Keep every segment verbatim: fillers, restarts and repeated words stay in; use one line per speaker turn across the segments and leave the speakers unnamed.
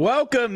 Welcome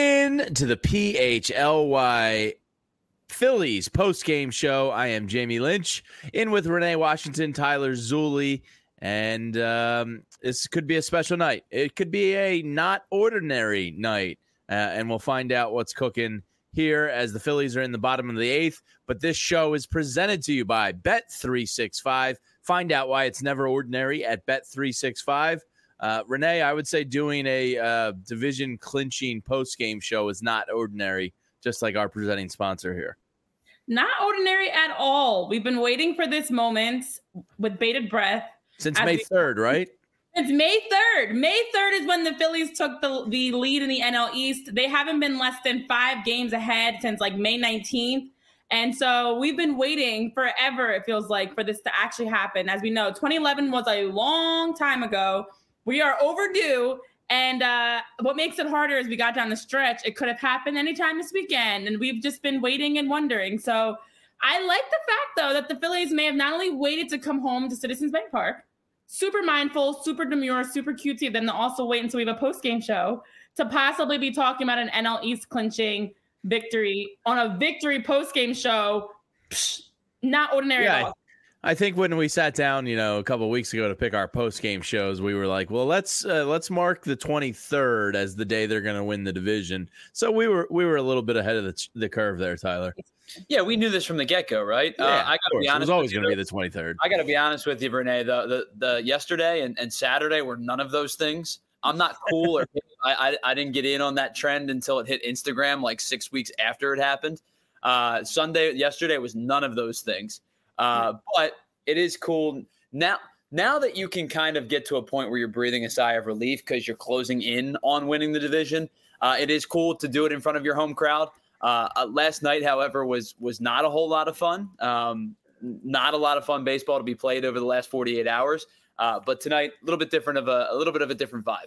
in to the P H L Y Phillies post-game show. I am Jamie Lynch, in with Renee Washington, Tyler Zulli, and um, this could be a special night. It could be a not ordinary night, uh, and we'll find out what's cooking here as the Phillies are in the bottom of the eighth. But this show is presented to you by Bet three sixty-five. Find out why it's never ordinary at Bet three sixty-five. Uh, Renee, I would say doing a uh, division clinching post-game show is not ordinary, just like our presenting sponsor here.
Not ordinary at all. We've been waiting for this moment with bated breath.
Since May third, right?
Since May third. May third is when the Phillies took the, the lead in the N L East. They haven't been less than five games ahead since like May nineteenth. And so we've been waiting forever, it feels like, for this to actually happen. As we know, twenty eleven was a long time ago. We are overdue, and uh, what makes it harder is we got down the stretch. It could have happened anytime this weekend, and we've just been waiting and wondering. So I like the fact, though, that the Phillies may have not only waited to come home to Citizens Bank Park, super mindful, super demure, super cutesy of them to also wait until we have a post-game show to possibly be talking about an N L East clinching victory on a victory post-game show. Psh, not ordinary
yeah,
at all.
I think when we sat down, you know, a couple of weeks ago to pick our post-game shows, we were like, well, let's uh, let's mark the twenty-third as the day they're going to win the division. So we were we were a little bit ahead of the, the curve there, Tyler.
Yeah, we knew this from the get-go, right?
Yeah,
uh, I got to be honest.
It was always going to be the twenty-third.
I got to be honest with you, Renee. The the, the yesterday and, and Saturday were none of those things. I'm not cool, or I, I I didn't get in on that trend until it hit Instagram like six weeks after it happened. Uh, Sunday, yesterday was none of those things. Uh, but it is cool now. Now that you can kind of get to a point where you're breathing a sigh of relief because you're closing in on winning the division. Uh, it is cool to do it in front of your home crowd. Uh, uh, last night, however, was was not a whole lot of fun. Um, not a lot of fun baseball to be played over the last forty-eight hours. Uh, but tonight, a little bit different of a, a little bit of a different vibe.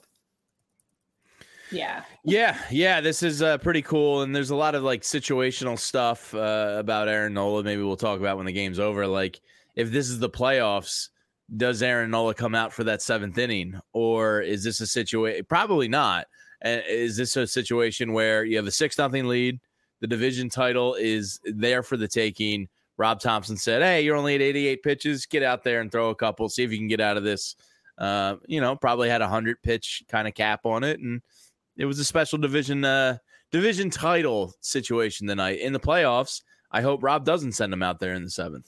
Yeah.
Yeah. Yeah. This is uh, pretty cool. And there's a lot of like situational stuff uh, about Aaron Nola. Maybe we'll talk about when the game's over. Like, if this is the playoffs, does Aaron Nola come out for that seventh inning? Or is this a situation? Probably not. Uh, is this a situation where you have a six nothing lead? The division title is there for the taking. Rob Thompson said, hey, you're only at eighty-eight pitches. Get out there and throw a couple. See if you can get out of this. Uh, you know, probably had a one hundred pitch kind of cap on it. And it was a special division uh, division title situation tonight. In the playoffs, I hope Rob doesn't send him out there in the seventh.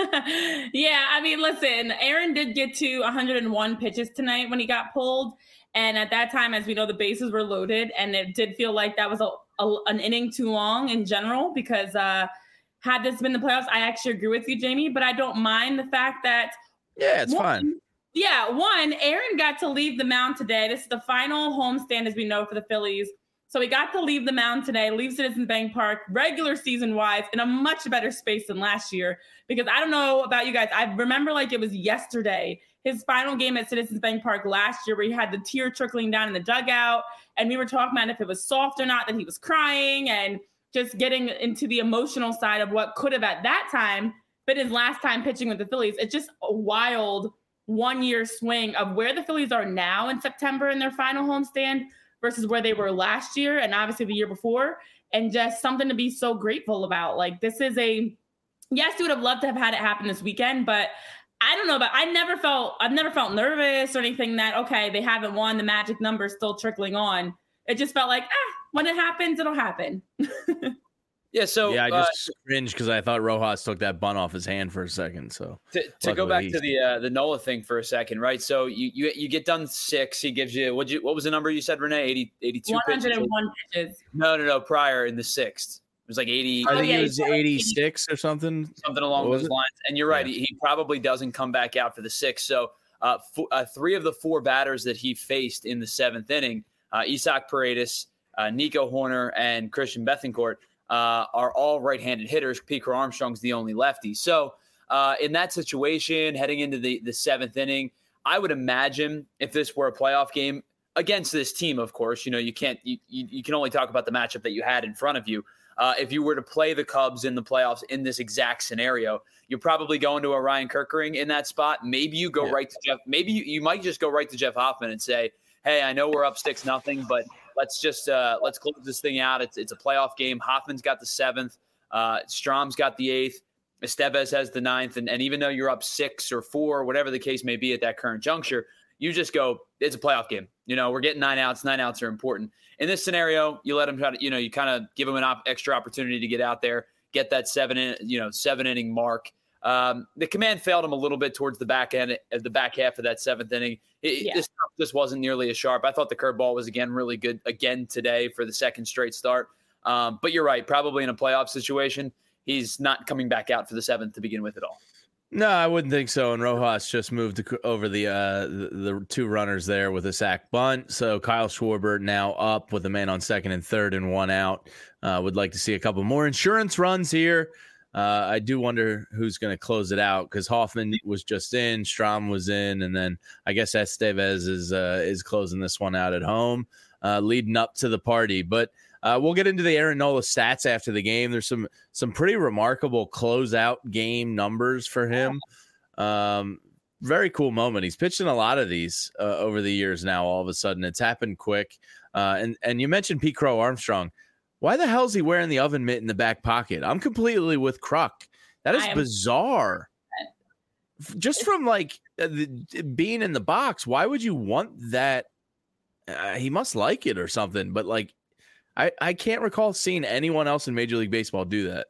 Yeah, I mean, listen, Aaron did get to one hundred one pitches tonight when he got pulled. And at that time, as we know, the bases were loaded. And it did feel like that was a, a, an inning too long in general because uh, had this been the playoffs, I actually agree with you, Jamie. But I don't mind the fact that.
Yeah, it's
one,
fine.
Yeah, one, Aaron got to leave the mound today. This is the final homestand, as we know, for the Phillies. So he got to leave the mound today, leave Citizens Bank Park, regular season-wise, in a much better space than last year. Because I don't know about you guys. I remember like it was yesterday, his final game at Citizens Bank Park last year, where he had the tear trickling down in the dugout. And we were talking about if it was soft or not, that he was crying and just getting into the emotional side of what could have at that time been his last time pitching with the Phillies. It's just a wild one-year swing of where the Phillies are now in September in their final homestand versus where they were last year and obviously the year before, and just something to be so grateful about. Like, this is a, yes, we would have loved to have had it happen this weekend, but I don't know, but I never felt, I've never felt nervous or anything that, okay, they haven't won, the magic number still trickling on. It just felt like, ah, when it happens, it'll happen.
Yeah, so
yeah, I just
uh,
cringed because I thought Rojas took that bunt off his hand for a second. So
to, to go back to the uh, the Nola thing for a second, right? So you you, you get done six. He gives you what you what was the number you said, Renee? eighty, eighty-two
one hundred one pitches. pitches.
No, no, no. Prior in the sixth, it was like eighty.
I think
oh, yeah,
it was eighty-six or something.
Something along those it? lines. And you're right. Yeah. He, he probably doesn't come back out for the sixth. So uh, f- uh, three of the four batters that he faced in the seventh inning, uh, Isaac Paredes, uh, Nico Horner, and Christian Bethancourt, Uh, are all right-handed hitters. Pete Crow Armstrong's the only lefty. So uh, in that situation, heading into the, the seventh inning, I would imagine if this were a playoff game against this team, of course, you know, you can't, you, you, you can only talk about the matchup that you had in front of you. Uh, if you were to play the Cubs in the playoffs in this exact scenario, you're probably going to a Ryan Kerkering in that spot. Maybe you go yeah. right to Jeff. Maybe you, you might just go right to Jeff Hoffman and say, hey, I know we're up six nothing, but let's just uh, let's close this thing out. It's it's a playoff game. Hoffman's got the seventh. Uh, Strom's got the eighth. Estevez has the ninth. And, and even though you're up six or four, whatever the case may be at that current juncture, you just go, it's a playoff game. You know, we're getting nine outs. Nine outs are important. In this scenario, you let them try to, you know, you kind of give them an op- extra opportunity to get out there, get that seven, in, you know, seven inning mark. Um, the command failed him a little bit towards the back end of the back half of that seventh inning. It, yeah. This just wasn't nearly as sharp. I thought the curveball was again really good again today for the second straight start. Um, but you're right, probably in a playoff situation, he's not coming back out for the seventh to begin with at all.
No, I wouldn't think so. And Rojas just moved to, over the, uh, the the two runners there with a sac bunt. So Kyle Schwarber now up with a man on second and third and one out. Uh, would like to see a couple more insurance runs here. Uh, I do wonder who's going to close it out because Hoffman was just in, Strom was in, and then I guess Estevez is uh, is closing this one out at home, uh, leading up to the party. But uh, we'll get into the Aaron Nola stats after the game. There's some some pretty remarkable closeout game numbers for him. Um, very cool moment. He's pitched in a lot of these uh, over the years now. All of a sudden, it's happened quick. Uh, and and you mentioned Pete Crow Armstrong. Why the hell is he wearing the oven mitt in the back pocket? I'm completely with Kruk. That is bizarre. Just from like uh, the, being in the box, why would you want that? Uh, he must like it or something. But like, I, I can't recall seeing anyone else in Major League Baseball do that.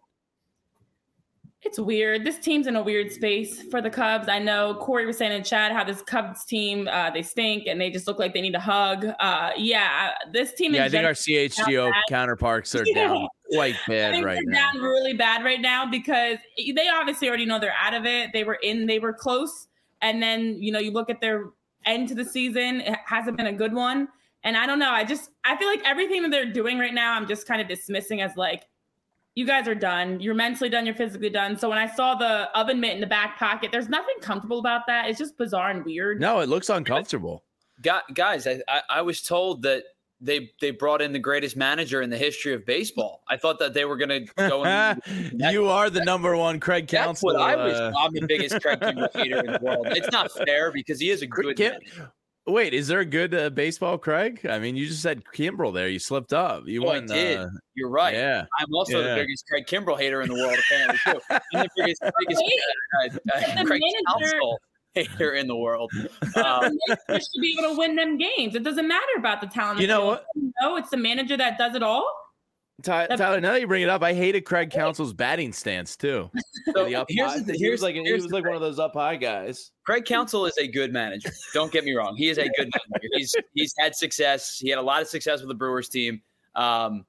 It's weird. This team's in a weird space for the Cubs. I know Corey was saying in chat how this Cubs team, uh, they stink and they just look like they need a hug. Uh, yeah, this team.
Yeah, I think our C H G O counterparts are yeah. down quite bad
I think
right
they're
now.
Down really bad right now because they obviously already know they're out of it. They were in, they were close. And then, you know, you look at their end to the season, it hasn't been a good one. And I don't know. I just, I feel like everything that they're doing right now, I'm just kind of dismissing as like, you guys are done. You're mentally done. You're physically done. So when I saw the oven mitt in the back pocket, there's nothing comfortable about that. It's just bizarre and weird.
No, it looks uncomfortable.
Guys, I, I, I was told that they they brought in the greatest manager in the history of baseball. I thought that they were going to go. And,
you are the number one Craig Counsell.
That's what I was. Uh, I'm the biggest Craig Kimbrel hater in the world. It's not fair because he is a good
Kim,
manager.
Wait, is there a good uh, baseball, Craig? I mean, you just said Kimbrel there. You slipped up. You
oh,
went.
I did.
Uh,
You're right.
Yeah.
I'm also
yeah.
the biggest Craig Kimbrel hater in the world, apparently, too. I'm the biggest, biggest uh, uh, Craig Counsell hater in the world. Um,
the manager should be able to win them games. It doesn't matter about the talent.
You know what?
No, it's the manager that does it all.
Ty, Tyler, now that you bring it up, I hated Craig Counsell's batting stance too.
So
the up
here's
high,
the,
he
here's
was like
here's
he was like one of those up high guys.
Craig Counsell is a good manager. Don't get me wrong; he is a good manager. He's he's had success. He had a lot of success with the Brewers team. Um,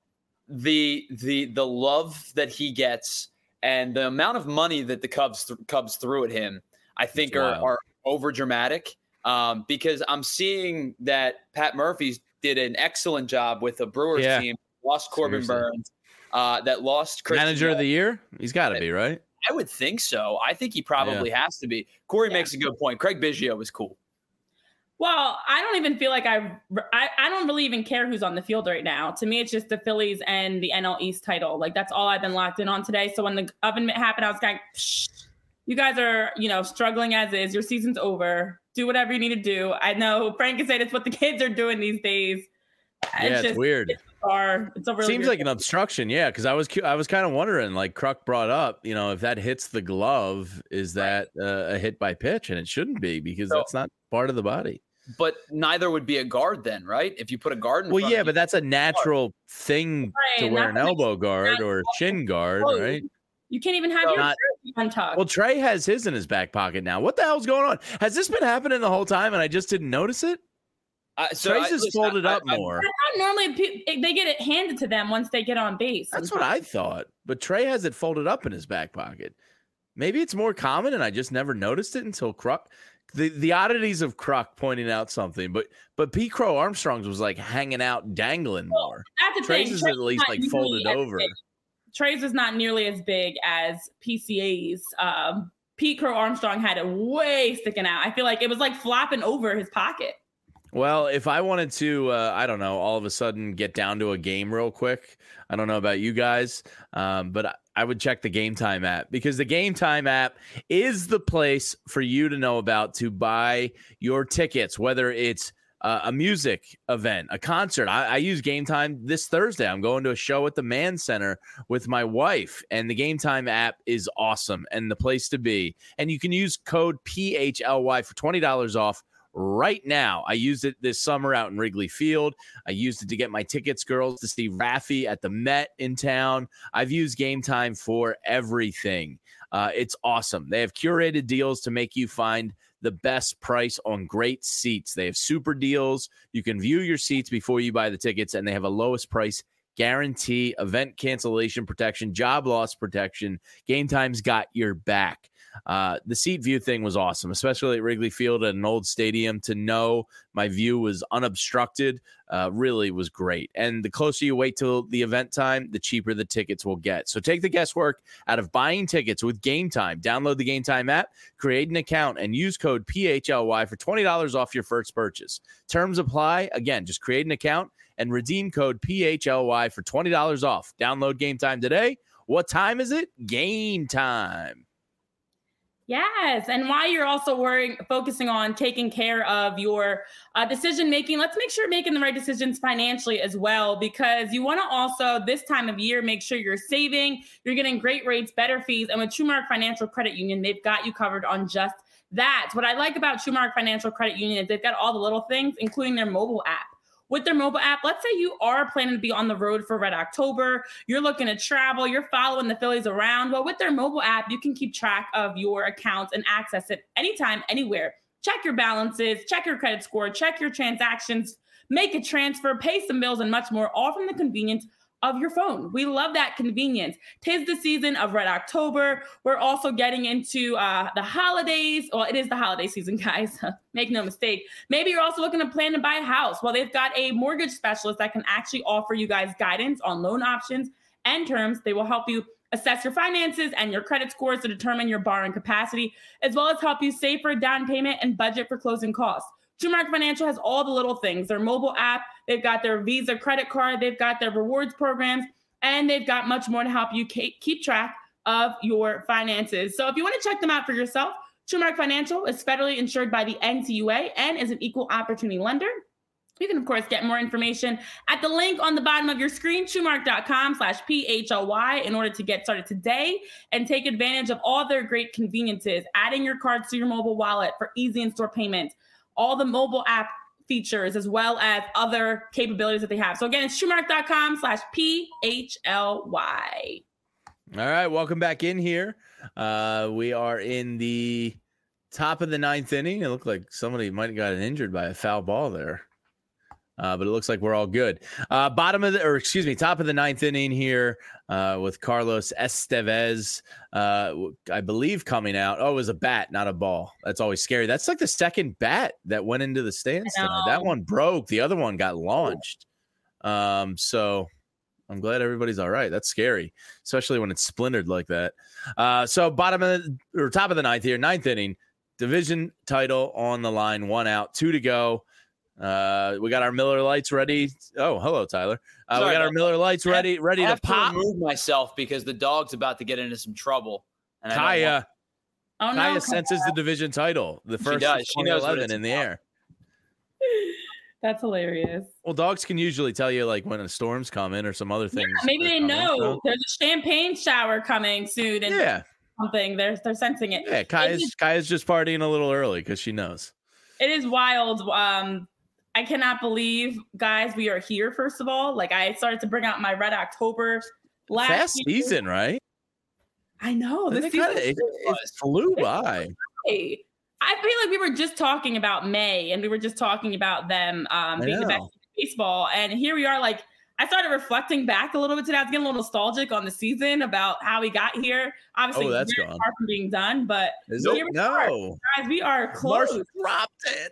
the the the love that he gets and the amount of money that the Cubs th- Cubs threw at him, I think, are, are over dramatic. Um, because I'm seeing that Pat Murphy did an excellent job with the Brewers
yeah.
team. Lost Corbin
Seriously.
Burns, uh, that lost Christian
manager
Bale.
of the year. He's got to be right.
I would think so. I think he probably yeah. has to be. Corey yeah. makes a good point. Craig Biggio was cool.
Well, I don't even feel like I, I I don't really even care who's on the field right now. To me, it's just the Phillies and the N L East title. Like that's all I've been locked in on today. So when the oven mitt happened, I was kind of, Psh, you guys are, you know, struggling as is. Your season's over. Do whatever you need to do. I know Frank is saying it's what the kids are doing these days.
Yeah, it's,
just,
it's weird.
It's bizarre. It's a really
Seems like
thing.
an obstruction, yeah. Because I was I was kind of wondering, like Kruk brought up, you know, if that hits the glove, is that uh, a hit by pitch? And it shouldn't be because so, that's not part of the body.
But neither would be a guard then, right? If you put a guard in
well,
front
yeah,
of
but that's a natural thing
right,
to wear an elbow guard or a chin guard,
oh,
right?
You can't even have so your not, untucked.
Well, Trey has his in his back pocket now. What the hell's going on? Has this been happening the whole time and I just didn't notice it? Uh, so Trey's is folded I, up I, more.
I, normally they get it handed to them once they get on base.
That's what I thought. But Trey has it folded up in his back pocket. Maybe it's more common and I just never noticed it until Kruk. The the oddities of Kruk pointing out something. But but Pete Crow Armstrong's was like hanging out, dangling more.
Well, that's the
Trey's
thing.
is
Trey's
at least like folded over.
Big. Trey's is not nearly as big as P C A's. Um, Pete Crow Armstrong had it way sticking out. I feel like it was like flopping over his pocket.
Well, if I wanted to, uh, I don't know, all of a sudden get down to a game real quick. I don't know about you guys, um, but I, I would check the Game Time app because the Game Time app is the place for you to know about to buy your tickets, whether it's uh, a music event, a concert. I, I use Game Time this Thursday. I'm going to a show at the Mann Center with my wife, and the Game Time app is awesome and the place to be. And you can use code P H L Y for twenty dollars off right now. I used it this summer out in Wrigley Field. I used it to get my tickets, girls, to see Rafi at the Met in town. I've used Game Time for everything. Uh, it's awesome. They have curated deals to make you find the best price on great seats. They have super deals. You can view your seats before you buy the tickets, and they have a lowest price guarantee, event cancellation protection, job loss protection. Game Time's got your back. Uh, the seat view thing was awesome, especially at Wrigley Field at an old stadium. To know my view was unobstructed uh, really was great. And the closer you wait till the event time, the cheaper the tickets will get. So take the guesswork out of buying tickets with Game Time. Download the Game Time app, create an account, and use code P H L Y for twenty dollars off your first purchase. Terms apply. Again, just create an account and redeem code P H L Y for twenty dollars off. Download Game Time today. What time is it? Game time.
Yes. And while you're also worrying, focusing on taking care of your uh, decision making, let's make sure you're making the right decisions financially as well, because you want to also this time of year make sure you're saving, you're getting great rates, better fees. And with TrueMark Financial Credit Union, they've got you covered on just that. What I like about TrueMark Financial Credit Union is they've got all the little things, including their mobile app. With their mobile app, let's say you are planning to be on the road for Red October, you're looking to travel, you're following the Phillies around. Well, with their mobile app, you can keep track of your accounts and access it anytime, anywhere. Check your balances, check your credit score, check your transactions, make a transfer, pay some bills, and much more, all from the convenience of your phone. We love that convenience. Tis the season of Red October. We're also getting into uh, the holidays. Well, it is the holiday season, guys. Make no mistake. Maybe you're also looking to plan to buy a house. Well, they've got a mortgage specialist that can actually offer you guys guidance on loan options and terms. They will help you assess your finances and your credit scores to determine your borrowing capacity, as well as help you save for a down payment and budget for closing costs. TrueMark Financial has all the little things. Their mobile app, they've got their Visa credit card, they've got their rewards programs, and they've got much more to help you keep track of your finances. So if you want to check them out for yourself, TrueMark Financial is federally insured by the N C U A and is an equal opportunity lender. You can, of course, get more information at the link on the bottom of your screen, TrueMark.com slash P H L Y, in order to get started today and take advantage of all their great conveniences, adding your cards to your mobile wallet for easy in-store payments, all the mobile app features, as well as other capabilities that they have. So again, it's TrueMark.com slash P H L Y.
All right, welcome back in here. Uh, we are in the top of the ninth inning. It looked like somebody might have gotten injured by a foul ball there. Uh, but it looks like we're all good. Uh, bottom of the, or excuse me, top of the ninth inning here uh, with Carlos Estevez, uh, I believe coming out. Oh, it was a bat, not a ball. That's always scary. That's like the second bat that went into the stands tonight. That one broke. The other one got launched. Um, so I'm glad everybody's all right. That's scary, especially when it's splintered like that. Uh, so bottom of the, or top of the ninth here, ninth inning, division title on the line, one out, two to go. Uh, we got our Miller Lights ready. Oh, hello, Tyler. Uh, we got our Miller Lights ready, ready
I have
to pop.
To remove myself because the dog's about to get into some trouble. And
Kaya,
oh, no,
Kaya senses the division title, the first twenty eleven in the air.
That's hilarious.
Well, dogs can usually tell you like when a storm's coming or some other things.
Yeah, maybe they
coming,
know
so.
There's a champagne shower coming soon, and
yeah,
something they're they're sensing it.
Yeah, Kaya's
it is,
Kaya's just partying a little early because she knows.
It is wild. Um. I cannot believe, guys, we are here, first of all. Like, I started to bring out my Red October last
Fast
year.
season, right?
I know. This
kinda, it, it flew by.
Crazy. I feel like we were just talking about May, and we were just talking about them um, being the best in baseball. And here we are, like, I started reflecting back a little bit today. I was getting a little nostalgic on the season about how we got here. Obviously,
oh, that's
very
gone.
far from being done, but
Is
here
it?
we
No.
are. Guys, we are close.
Marsh dropped it.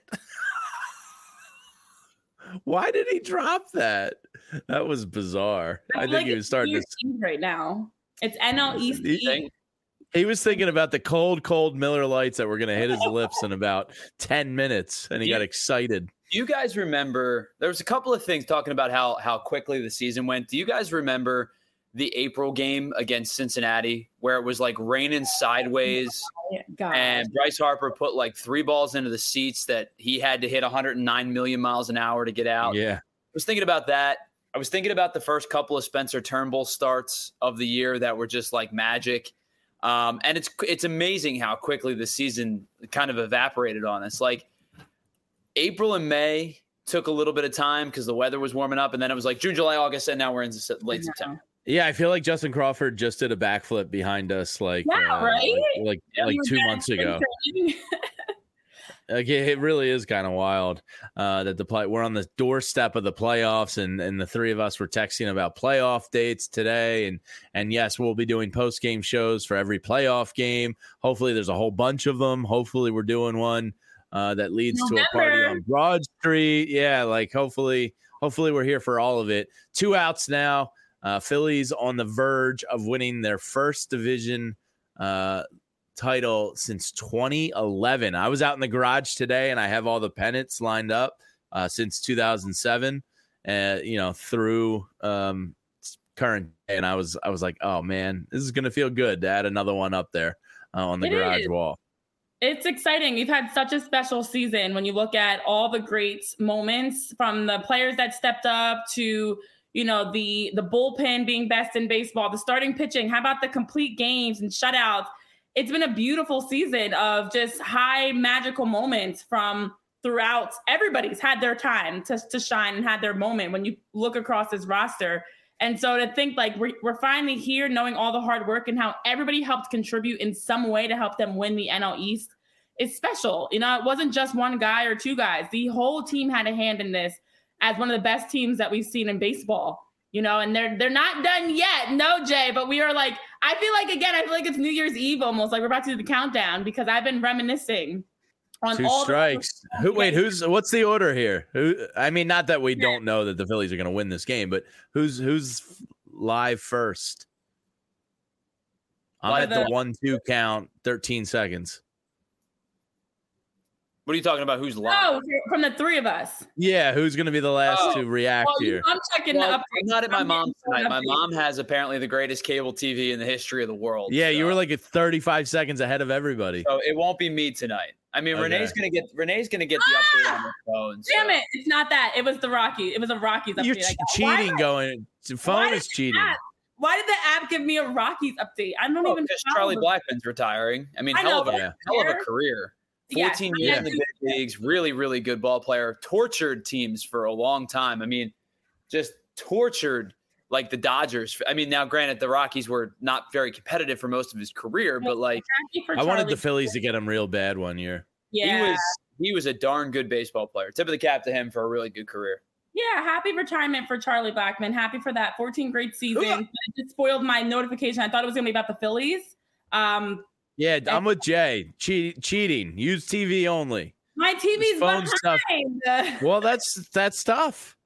Why did he drop that? That was bizarre. I, I think like he was starting to
right now. It's N L E C.
He, he was thinking about the cold, cold Miller Lights that were going to hit his lips in about ten minutes, and he
you,
got excited.
Do you guys remember? There was a couple of things talking about how how quickly the season went. Do you guys remember the April game against Cincinnati where it was like raining sideways
God.
and Bryce Harper put like three balls into the seats that he had to hit one hundred nine million miles an hour to get out.
Yeah.
I was thinking about that. I was thinking about the first couple of Spencer Turnbull starts of the year that were just like magic. Um, and it's it's amazing how quickly the season kind of evaporated on us. Like April and May took a little bit of time because the weather was warming up, and then it was like June, July, August, and now we're in late September.
Yeah, I feel like Justin Crawford just did a backflip behind us, like
Yeah,
uh,
right?
like like,
Yeah,
like
we were
two
back
months ago.
in-
Like it, it really is kind of wild uh, that the play we're on the doorstep of the playoffs, and and the three of us were texting about playoff dates today, and and yes, we'll be doing post game shows for every playoff game. Hopefully, there's a whole bunch of them. Hopefully, we're doing one uh, that leads to a party
November.
on Broad Street. Yeah, like hopefully, hopefully we're here for all of it. Two outs now. Uh, Phillies on the verge of winning their first division uh, title since twenty eleven. I was out in the garage today, and I have all the pennants lined up uh, since two thousand seven. Uh, you know, through um, current day, and I was I was like, oh man, this is gonna feel good to add another one up there uh, on the
It
garage
is.
wall.
It's exciting. We've had such a special season when you look at all the great moments from the players that stepped up to, you know, the the bullpen being best in baseball, the starting pitching. How about the complete games and shutouts? It's been a beautiful season of just high magical moments from throughout. Everybody's had their time to, to shine and had their moment when you look across this roster. And so to think like we're, we're finally here knowing all the hard work and how everybody helped contribute in some way to help them win the N L East is special. You know, it wasn't just one guy or two guys. The whole team had a hand in this as one of the best teams that we've seen in baseball. You know, and they're they're not done yet. No, Jay, but we are like, I feel like, again, I feel like it's New Year's Eve almost, like we're about to do the countdown because I've been reminiscing on
Two
all
strikes.
the-
Who? Wait, who's? What's the order here? Who? I mean, not that we don't know that the Phillies are going to win this game, but who's who's live first? I'm
Live
at the
the-
one-two count. Thirteen seconds.
What are you talking about? Who's live?
Oh, from the three of us.
Yeah, who's going to be the last
Oh,
to react
Well,
here?
I'm checking
Well,
the
I'm
updates.
not at my
I'm
mom's
getting
tonight. My
updates.
mom has apparently the greatest cable T V in the history of the world.
Yeah, you
so-
were like at thirty-five seconds ahead of everybody.
So it won't be me tonight. I mean,
Okay.
Renee's gonna get Renee's gonna get the update on her phone. So.
Damn it! It's not that. It was the Rocky. It was a Rockies update.
You're
I
che-
got. Why
cheating.
did-
Going. The phone
why
is
did
cheating.
that- Why did the app give me a Rockies update? I don't
Oh,
even.
because
follow
Charlie
the-
Blackman's retiring. I mean,
I
hell
know,
of a
but
Yeah.
hell of a
there-
career.
Yes,
fourteen
but
years
yeah,
in the big leagues. Really, really good ball player. Tortured teams for a long time. I mean, just tortured like the Dodgers. I mean, now granted, the Rockies were not very competitive for most of his career, but like
Happy for
I wanted
Charlie.
the Phillies to get him real bad one year.
Yeah.
he was he was a darn good baseball player. Tip of the cap to him for a really good career.
Yeah, happy retirement for Charlie Blackman. Happy for that fourteen great seasons.
Yeah.
It just spoiled my notification. I thought it was going to be about the Phillies. Um,
Yeah, I'm with Jay. Che- cheating. Use T V only.
my T V's
phone's tough.
behind.
Well, that's that's tough.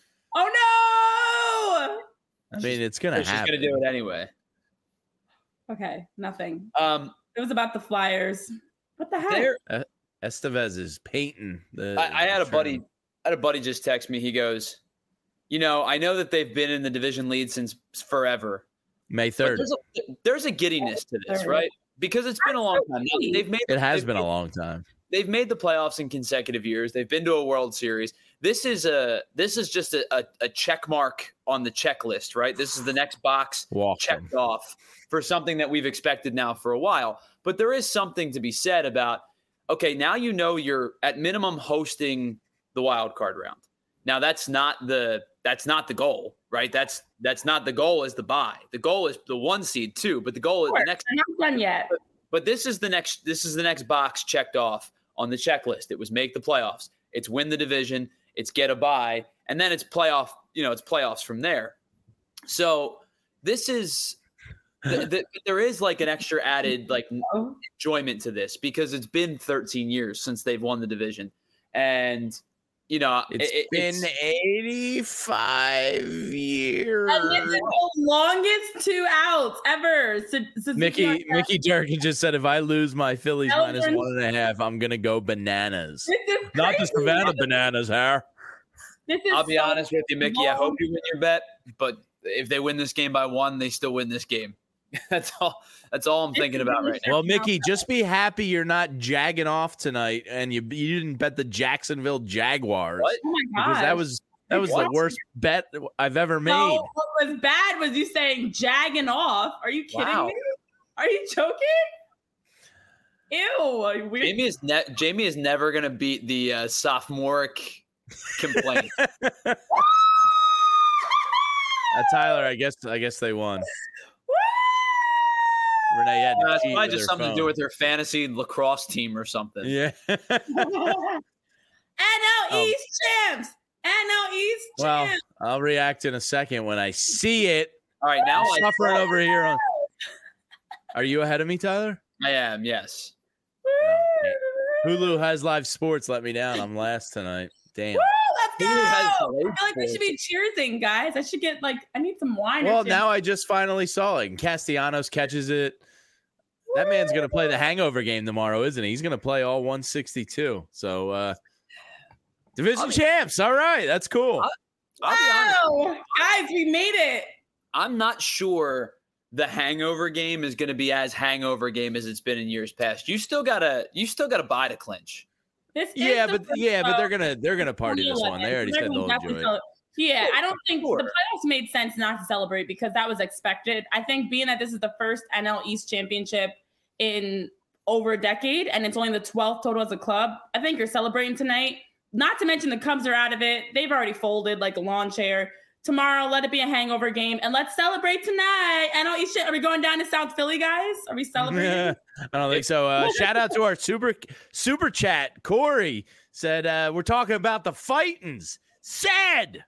Oh
I mean, it's gonna
She's
happen.
gonna do it anyway.
no! Okay, nothing.
Um,
It was about the Flyers. What the heck?
there,
Estevez is painting. The,
I, I had a
the
buddy.
trim.
I had a buddy just text me. He goes, "You know, I know that they've been in the division lead since forever.
May
But
third.
there's a, there's a giddiness to this,
Third.
right? Because it's been a long time. Now, they've made
It has
they've
been a
made-
long time.
They've made the playoffs in consecutive years. They've been to a World Series. This is a this is just a, a, a check mark on the checklist, right? This is the next box
Walk
checked
them.
off for something that we've expected now for a while. But there is something to be said about, okay, now you know you're at minimum hosting the wild card round. Now that's not the that's not the goal, right? That's that's not the goal is the bye. The goal is the one seed too, but the goal is the next
They're not done yet.
but this is the next this is the next box checked off on the checklist. It was make the playoffs. It's win the division. It's get a bye, and then it's playoff. You know, it's playoffs from there. So this is the, the, there is like an extra added like
Oh,
enjoyment to this because it's been thirteen years since they've won the division, and you know
It's
it-
been
it's-
eighty-five years.
and this is the longest two outs ever. So, so
Mickey Mickey Durkin just said, if I lose my Phillies
Elvin-
minus one and a half, I'm gonna go bananas.
This is
Not the
crazy.
Savannah bananas, huh?
This is
I'll be
so
honest with you, Mickey. I hope you win your bet, but if they win this game by one, they still win this game. That's all. That's all I'm thinking about right now.
Well, Mickey, just be happy you're not jagging off tonight, and you you didn't bet the Jacksonville Jaguars.
What?
Oh my
Because
god,
that was that was
What?
the worst bet I've ever made.
No, what was bad was you saying jagging off. Are you kidding
Wow.
me? Are you joking? Ew. Weird.
Jamie is ne- Jamie is never gonna beat the uh, sophomoric complaint.
Uh, Tyler, I guess I guess they won. Renee had to
Uh, it's
cheat
probably
with
just
her
something
phone.
to do with her fantasy lacrosse team or something.
Yeah.
N L
Oh.
East champs. N L East
Well,
champs.
I'll react in a second when I see it.
All right, now
I'm
I,
suffering over here. On... Are you ahead of me, Tyler?
I am. Yes.
Hulu has live sports. Let me down. I'm last tonight. Damn.
Woo, let's go.
Hulu has
I
delayed
feel like we should be cheersing, guys. I should get like I need some wine. or
Well,
something.
now I just finally saw it. And Castellanos catches it. That man's going to play the hangover game tomorrow, isn't he? He's going to play all one sixty-two. So, uh, division
I'll-
champs. All right. That's cool.
I'll- I'll be honest.
Wow, guys, we made it.
I'm not sure the hangover game is going to be as hangover game as it's been in years past. You still gotta, you still gotta buy to clinch.
This is
yeah,
the
but
first
yeah, but
of
they're gonna they're gonna party this one. They already said
Everyone's
they'll enjoy
definitely
it.
cel- Yeah, I don't think
Sure.
the playoffs made sense not to celebrate because that was expected. I think being that this is the first N L East championship in over a decade and it's only the twelfth total as a club, I think you're celebrating tonight. Not to mention the Cubs are out of it. They've already folded like a lawn chair. Tomorrow, let it be a hangover game and let's celebrate tonight. N L East, are we going down to South Philly, guys? Are we celebrating?
I don't think so. Uh, shout out to our super super chat. Corey said uh, we're talking about the fightins. Said.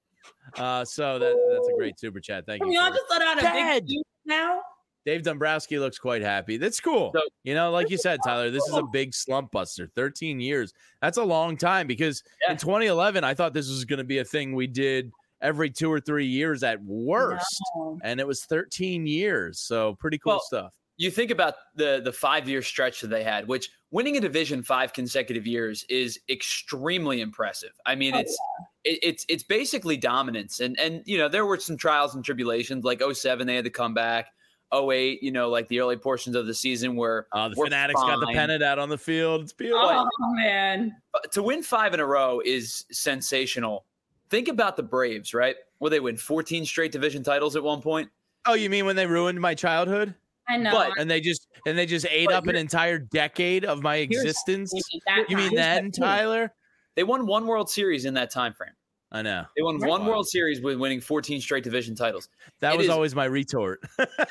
Uh, so that that's a great super chat. Thank
Can
you.
we all
Corey.
just let out a
Dead.
big now?
Dave Dombrowski looks quite happy. That's cool.
So-
you know, like you said, Tyler, this is a big slump buster. thirteen years. That's a long time because
Yeah.
in twenty eleven, I thought this was going to be a thing we did every two or three years at worst.
No.
And it was thirteen years. So pretty cool
Well,
stuff.
You think about the the five year stretch that they had, which winning a division five consecutive years is extremely impressive. I mean,
Oh,
it's it, it's it's basically dominance, and and you know there were some trials and tribulations. Like oh seven, they had to come back. oh eight, you know, like the early portions of the season where
Oh, the
we're
Fanatics got the
fine.
pennant out on the field. It's beautiful.
Oh, man.
But to win five in a row is sensational. Think about the Braves, right? Will they win fourteen straight division titles at one point?
Oh, you mean when they ruined my childhood?
I know.
But-
And they just and they just ate
But
up an
you're-
entire decade of my
Here's-
existence?
That
You mean
time.
then,
the thing.
Tyler?
They won one World Series in that time frame.
I know.
They won
Right.
one World Series with winning fourteen straight division titles.
That
It
was
is-
always my retort.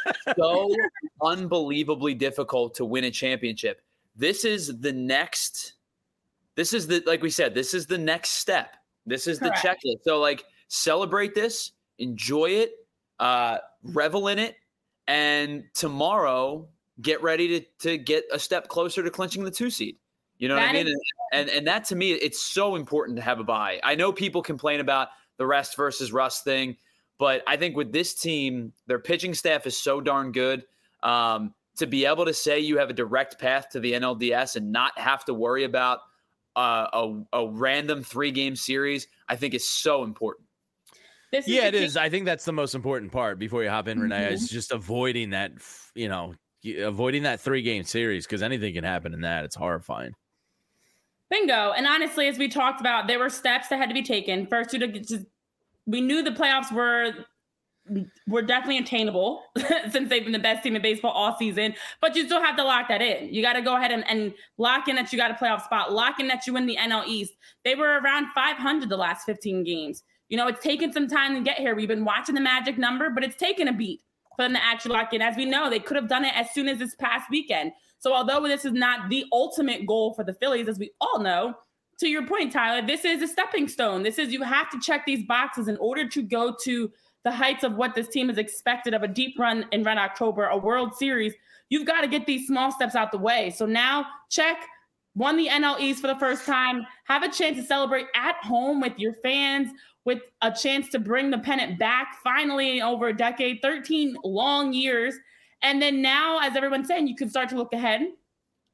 So unbelievably difficult to win a championship. This is the next, this is the, like we said, this is the next step. This is the
Correct.
checklist. So, like, celebrate this, enjoy it, uh, revel in it, and tomorrow get ready to to get a step closer to clinching the two seed. You know what I
That
mean? And, and and that to me, it's so important to have a bye. I know people complain about the rest versus rust thing, but I think with this team, their pitching staff is so darn good. Um, to be able to say you have a direct path to the N L D S and not have to worry about uh, a, a random three game series, I think is so important.
This is
Yeah,
the
it
thing-
is. I think that's the most important part before you hop in, Renee,
Mhm.
is just avoiding that, f- you know, y- avoiding that three game series because anything can happen in that. It's horrifying.
Bingo. And honestly, as we talked about, there were steps that had to be taken. First, to just, we knew the playoffs were were definitely attainable since they've been the best team in baseball all season. But you still have to lock that in. You got to go ahead and, and lock in that you got a playoff spot, lock in that you win the N L East. They were around five hundred the last fifteen games. You know, it's taken some time to get here. We've been watching the magic number, but it's taken a beat for them to actually lock in. As we know, they could have done it as soon as this past weekend. So although this is not the ultimate goal for the Phillies, as we all know, to your point, Tyler, this is a stepping stone. This is, you have to check these boxes in order to go to the heights of what this team is expected of a deep run in Red October, a World Series. You've got to get these small steps out the way. So now check, won the N L East for the first time, have a chance to celebrate at home with your fans, with a chance to bring the pennant back finally in over a decade, thirteen long years. And then now, as everyone's saying, you can start to look ahead.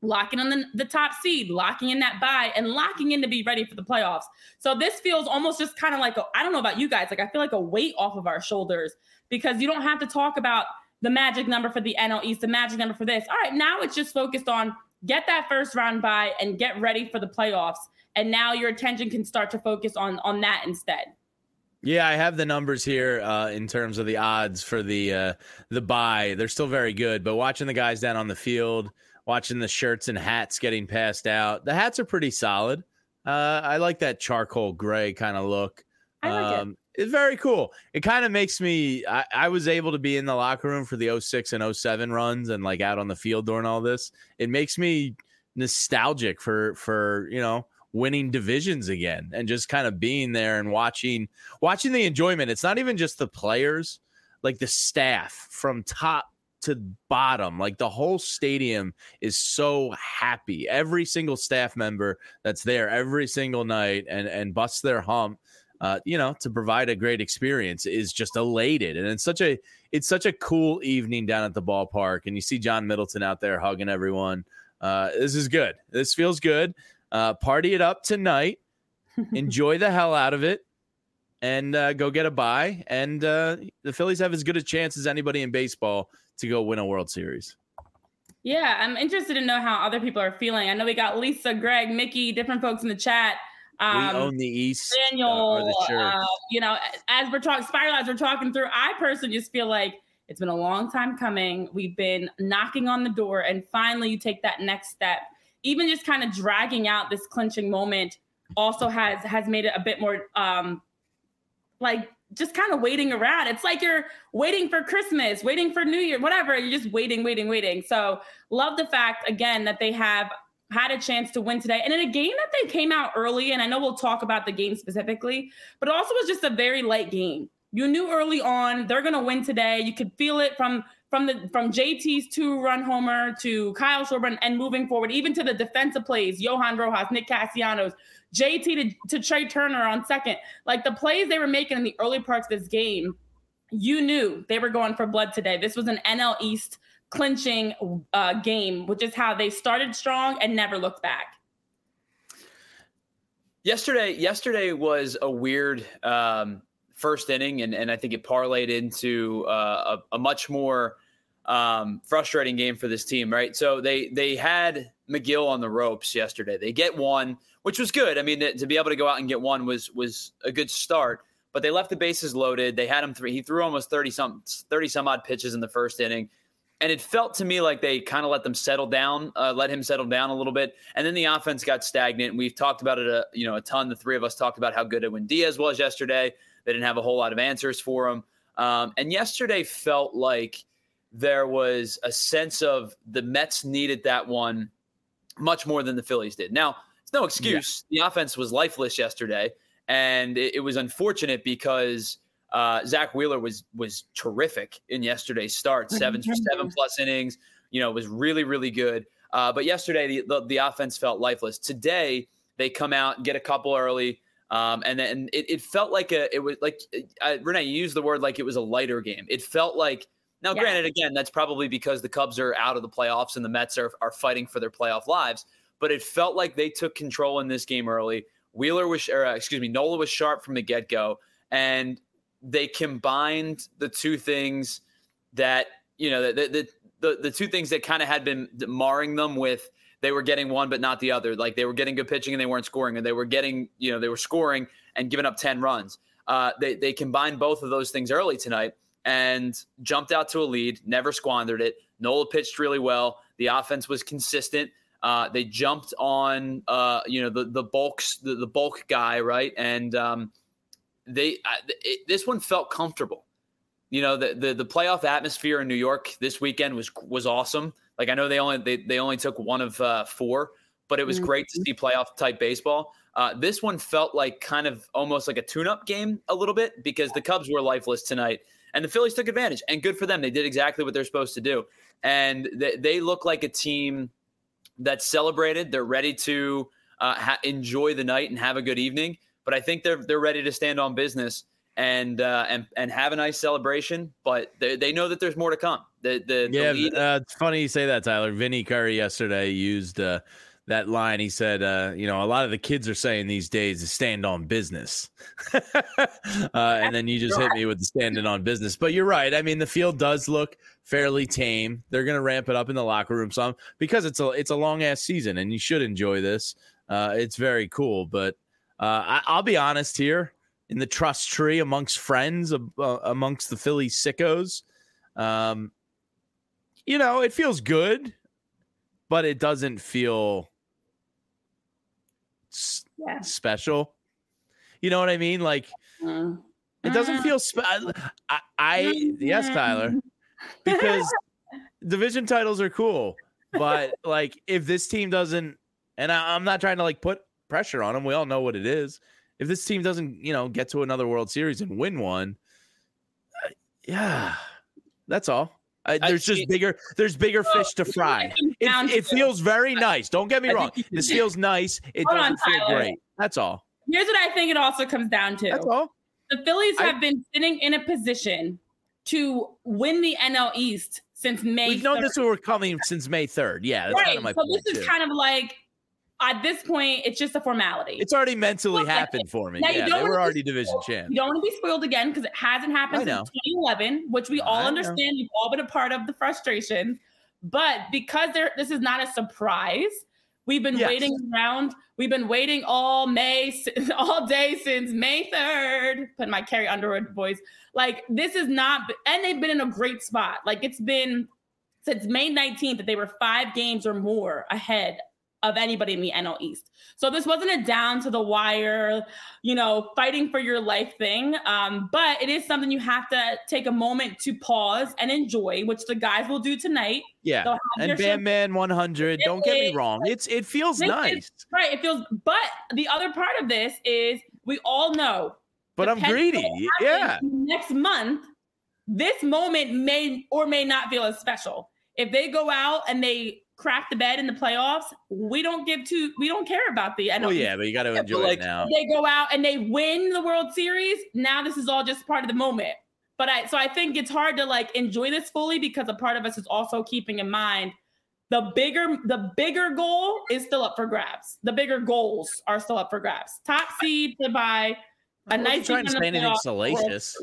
locking on the, the top seed, locking in that bye, and locking in to be ready for the playoffs. So this feels almost just kind of like, a, I don't know about you guys, like I feel like a weight off of our shoulders, because you don't have to talk about the magic number for the N L East, the magic number for this. All right, now it's just focused on get that first round bye and get ready for the playoffs. And now your attention can start to focus on, on that instead.
Yeah, I have the numbers here uh, in terms of the odds for the uh, the bye. They're still very good, but watching the guys down on the field, watching the shirts and hats getting passed out, the hats are pretty solid. Uh, I like that charcoal gray kind of look.
I like
um,
it.
It's very cool. It kind of makes me, I, I was able to be in the locker room for the oh six and oh seven runs and like out on the field during all this. It makes me nostalgic for, for, you know, winning divisions again and just kind of being there and watching, watching the enjoyment. It's not even just the players, like the staff from top to bottom, like the whole stadium is so happy. Every single staff member that's there every single night and, and busts their hump, uh, you know, to provide a great experience is just elated. And it's such a, it's such a cool evening down at the ballpark. And you see John Middleton out there hugging everyone. Uh, this is good. This feels good. Uh, party it up tonight. Enjoy the hell out of it. And uh, go get a bye. And uh, the Phillies have as good a chance as anybody in baseball to go win a World Series.
Yeah, I'm interested to know how other people are feeling. I know we got Lisa, Greg, Mickey, different folks in the chat.
Um, we own the East.
Daniel,
uh, or the
uh, you know, as we're talking, Spiral, as we're talking through, I personally just feel like it's been a long time coming. We've been knocking on the door, and finally you take that next step. Even just kind of dragging out this clinching moment also has has made it a bit more um, like just kind of waiting around. It's like you're waiting for Christmas, waiting for New Year, whatever. You're just waiting, waiting, waiting. So love the fact, again, that they have had a chance to win today. And in a game that they came out early, and I know we'll talk about the game specifically, but it also was just a very light game. You knew early on they're going to win today. You could feel it from from the from J T's two-run homer to Kyle Schwarber and moving forward, even to the defensive plays, Johan Rojas, Nick Castellanos, J T to, to Trey Turner on second. Like the plays they were making in the early parts of this game, you knew they were going for blood today. This was an N L East clinching uh, game, which is how they started strong and never looked back.
Yesterday, yesterday was a weird um, first inning, and, and I think it parlayed into uh, a, a much more um, frustrating game for this team, right? So they they had McGill on the ropes yesterday. They get one, which was good. I mean, to, to be able to go out and get one was was a good start. But they left the bases loaded. They had him three. He threw almost thirty some thirty some odd pitches in the first inning. And it felt to me like they kind of let them settle down, uh, let him settle down a little bit. And then the offense got stagnant. We've talked about it a, you know, a ton. The three of us talked about how good Edwin Diaz was yesterday. They didn't have a whole lot of answers for him. Um, and yesterday felt like there was a sense of the Mets needed that one much more than the Phillies did. Now, it's no excuse. Yeah. The offense was lifeless yesterday. And it, it was unfortunate because Uh, Zach Wheeler was was terrific in yesterday's start, seven seven plus innings. You know, was really really good. Uh, but yesterday the, the the offense felt lifeless. Today they come out and get a couple early, um, and then it, it felt like a it was like uh, Renee, you used the word like it was a lighter game. It felt like now, yeah. Granted, again, that's probably because the Cubs are out of the playoffs and the Mets are are fighting for their playoff lives. But it felt like they took control in this game early. Wheeler was, or uh, excuse me, Nola was sharp from the get go, and they combined the two things that, you know, the the the, the two things that kind of had been marring them with they were getting one but not the other. Like they were getting good pitching and they weren't scoring, and they were getting, you know, they were scoring and giving up ten runs. Uh, they they combined both of those things early tonight and jumped out to a lead, never squandered it. Nola pitched really well. The offense was consistent. Uh, they jumped on, uh, you know, the the bulks the, the bulk guy, right, and um, They it, this one felt comfortable. You know, the, the the playoff atmosphere in New York this weekend was was awesome. Like I know they only they, they only took one of uh, four, but it was mm-hmm. great to see playoff type baseball. Uh, this one felt like kind of almost like a tune-up game a little bit because the Cubs were lifeless tonight and the Phillies took advantage, and good for them. They did exactly what they're supposed to do, and they, they look like a team that celebrated. They're ready to uh, ha- enjoy the night and have a good evening. But I think they're they're ready to stand on business. and uh, and and have a nice celebration. But they, they know that there's more to come. The the,
yeah,
the lead-
uh, it's funny you say that, Tyler. Vinny Curry yesterday used uh, that line. He said, uh, you know, a lot of the kids are saying these days to stand on business. uh, and then you just hit me with the standing on business. But you're right. I mean, the field does look fairly tame. They're going to ramp it up in the locker room some because it's a it's a long ass season, and you should enjoy this. Uh, it's very cool. But uh, I, I'll be honest here, in the trust tree amongst friends, uh, amongst the Philly sickos, um, you know, it feels good, but it doesn't feel s-
Yeah.
special. You know what I mean? Like,
Uh,
it doesn't feel spe- I, I yes, Tyler, because division titles are cool, but like if this team doesn't, and I, I'm not trying to like put pressure on them. We all know what it is. If this team doesn't, you know, get to another World Series and win one, uh, yeah, that's all. I, there's just bigger. There's bigger fish to fry. It, it feels very nice. Don't get me wrong. This feels nice. It
Hold
doesn't
on,
feel
Tyler.
great. That's all.
Here's what I think it also comes down to.
That's all.
The Phillies
I-
have been sitting in a position to win the N L East since May.
We've known
third.
this were coming since May third. Yeah, that's
Right.
kind of my
so
point
this is
too.
kind of like, at this point, it's just a formality.
It's already mentally
Well,
happened for me.
now you
Yeah,
don't
they were
wanna
already
be
division
spoiled.
champs.
You don't want to be spoiled again because it hasn't happened
I know.
since twenty eleven, which we all
I know.
understand. We've all been a part of the frustration. But because there, this is not a surprise, we've been
Yes.
waiting around. We've been waiting all May, all day since May third. Put my Carrie Underwood voice. Like, this is not, and they've been in a great spot. Like, it's been since May nineteenth that they were five games or more ahead of anybody in the N L East. So this wasn't a down to the wire, you know, fighting for your life thing. Um, but it is something you have to take a moment to pause and enjoy, which the guys will do tonight.
Yeah,
They'll have
and
their
Bam
show-
Man one hundred. Don't get me
It-
wrong. It's it feels
This is-
nice,
Right. It feels, but the other part of this is we all know.
but I'm
depending
greedy.
on what
Yeah,
happens Next month, this moment may or may not feel as special. If they go out and they crack the bed in the playoffs, we don't give two, we don't care about the N L
well,
East.
yeah, but you got to
but
enjoy
like-
it now.
They go out and they win the World Series. Now this is all just part of the moment. But I, so I think it's hard to like enjoy this fully because a part of us is also keeping in mind the bigger, the bigger goal is still up for grabs. The bigger goals are still up for grabs. Top seed to buy a
I wasn't
nice
trying to
season
say
in the
anything
playoffs.
salacious.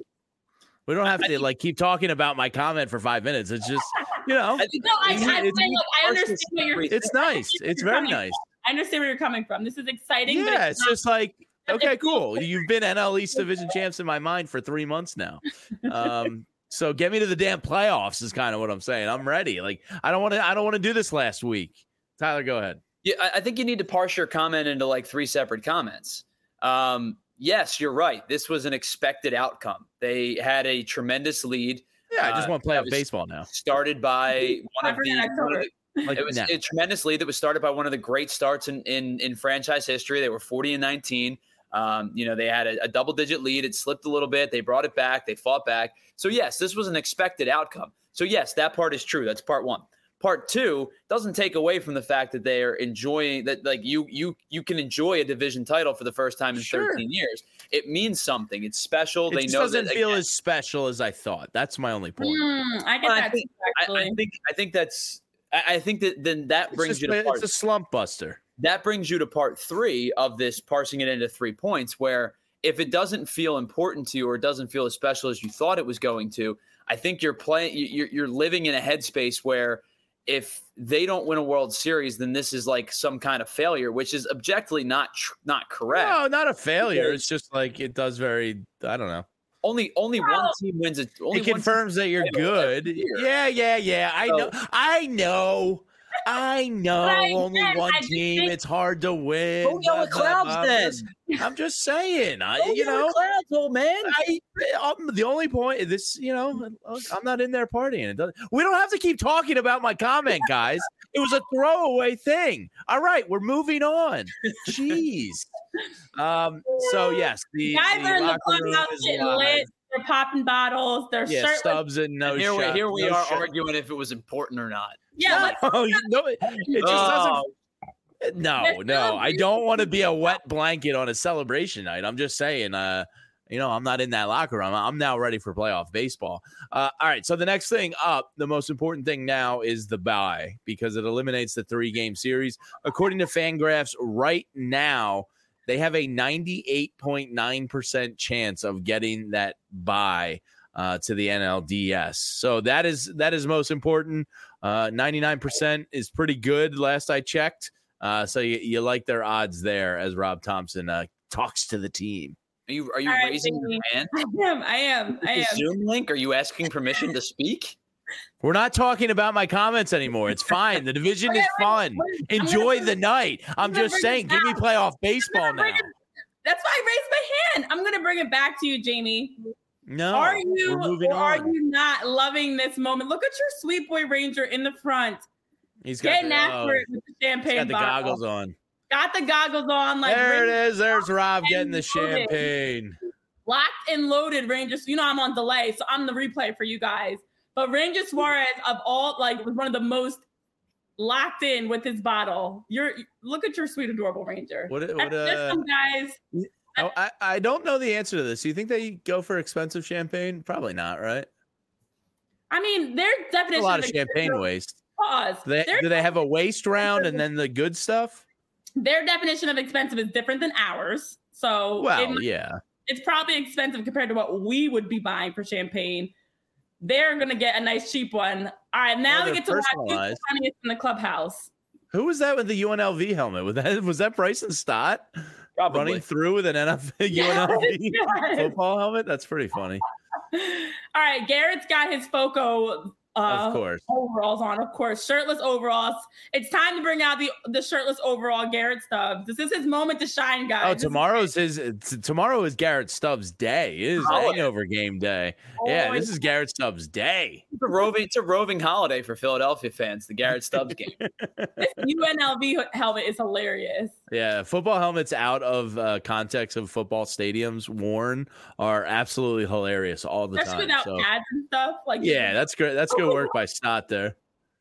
We don't have to like keep talking about my comment for five minutes. It's just, you know,
I think
No, I,
It's-
I, I,
it's-
look, I understand what you're.
it's nice. It's very nice.
I understand where you're coming from. This is exciting. but
Yeah,
it's
it's
not-
just like,
but
okay,
it feels
cool. You've been N L East division champs in my mind for three months now. Um, so get me to the damn playoffs is kind of what I'm saying. I'm ready. Like, I don't want to. I don't want to do this last week. Tyler, go ahead.
Yeah, I, I think you need to parse your comment into like three separate comments. Um, yes, you're right. This was an expected outcome. They had a tremendous lead.
Yeah, I just
Uh,
want to play
that
off
was
baseball now.
Started by one of the,
I forgot
one of the
Like
it was
now.
a tremendous lead that was started by one of the great starts in in, in franchise history. They were forty and nineteen. Um, you know, they had a, a double digit lead. It slipped a little bit. They brought it back. They fought back. So yes, this was an expected outcome. So yes, that part is true. That's part one. Part two doesn't take away from the fact that they are enjoying that. Like you, you, you can enjoy a division title for the first time in
Sure.
thirteen years. It means something. It's special.
It
they
just
know
doesn't
that,
feel
again,
as special as I thought. That's my only point.
Hmm, I get
Well, I
that
think-
too,
I,
actually.
I think. I think that's. I, I think that then that
It's,
brings
just,
you to part.
it's a slump buster.
that brings you to part three of this parsing it into three points, where if it doesn't feel important to you or it doesn't feel as special as you thought it was going to, I think you're playing, you're, you're living in a headspace where if they don't win a World Series, then this is like some kind of failure, which is objectively not tr- not correct.
No, not a failure. It's just like it does very. I don't know.
Only only one team wins it. Only
It
one
confirms that you're
title every
good.
year.
Yeah, yeah, yeah. I
So-
know. I know. I know.
But
Only
again,
one
I just
team.
think-
It's hard to win.
Go yell at
blah, blah,
clouds
blah. I'm
then.
just- I'm just saying. I,
Go
you
yell at
know.
clouds, old man.
I, I'm the only point. This, you know, I'm not in there partying. It doesn't. We don't have to keep talking about my comment, guys. It was a throwaway thing. All right, we're moving on. Jeez. Um. So yes, the,
Guys
the
are in the
locker room
clubhouse
is
getting
live.
lit. They're popping bottles. They're
Yeah,
shirtless.
Stubbs and no
And here, we,
shot.
here we
no
are
shot.
arguing if it was important or not.
Yeah, let's
No, you know, it, it just
Oh,
doesn't. No,
Let's
no,
go.
I don't want to be a wet blanket on a celebration night. I'm just saying, uh, You know, I'm not in that locker room. I'm now ready for playoff baseball. Uh, all right. So the next thing up, the most important thing now is the bye because it eliminates the three game series. According to Fangraphs, right now, they have a ninety-eight point nine percent chance of getting that bye uh, to the N L D S. So that is that is most important. Uh, ninety-nine percent is pretty good last I checked. Uh, so you, you like their odds there as Rob Thompson uh, talks to the team.
Are you are you
All
raising
right,
your hand?
I am. I am. I am.
Zoom link? Are you asking permission to speak?
We're not talking about my comments anymore. It's fine. The division is fun. Enjoy the night. I'm just saying, give me playoff baseball now.
That's why I raised my hand. I'm going to bring it back to you, Jamie.
No,
are you or are
on.
you not loving this moment? Look at your sweet boy Ranger in the front.
He's got
getting
the,
after
oh,
it with the champagne
he's got the
bottle.
goggles on.
Got the goggles on. Like
there
Ranger
it is. There's Rob getting the
loaded.
champagne.
Locked and loaded, Rangers. You know I'm on delay, so I'm the replay for you guys. But Ranger Suarez, of all, like, was one of the most locked in with his bottle. You're look at your sweet, adorable Ranger.
What? what
There's
uh,
some guys.
oh, I I don't know the answer to this. Do you think they go for expensive champagne? Probably not, right?
I mean, their definition
A lot of
of
champagne waste.
Pause.
Do they,
Their
do they have a waste round and then the good stuff?
Their definition of expensive is different than ours. So
Well,
it,
yeah.
it's probably expensive compared to what we would be buying for champagne. They're gonna get a nice cheap one. All right, now
Well,
we
they're
get to watch who's the
personalized.
funniest in the clubhouse.
Who was that with the U N L V helmet? Was that was that Bryson Stott
Probably.
running through with an N F L
Yes,
U N L V
yes.
football helmet? That's pretty funny.
All right, Garrett's got his Foco uh,
Of course.
overalls on, of course, shirtless overalls. It's time to bring out the the shirtless overall Garrett Stubbs. This is his moment to shine, guys.
Oh,
This is-
tomorrow's his. t- Tomorrow is Garrett Stubbs' day. It is
Oh,
hangover game day. Yeah,
Oh,
this is Garrett Stubbs' day.
It's a roving, it's a roving holiday for Philadelphia fans, the Garrett Stubbs game.
this U N L V helmet is hilarious.
Yeah, football helmets out of uh, context of football stadiums worn are absolutely hilarious all the
Especially
time.
without
So,
ads and stuff. Like
yeah, that's great. That's good work by Stott there.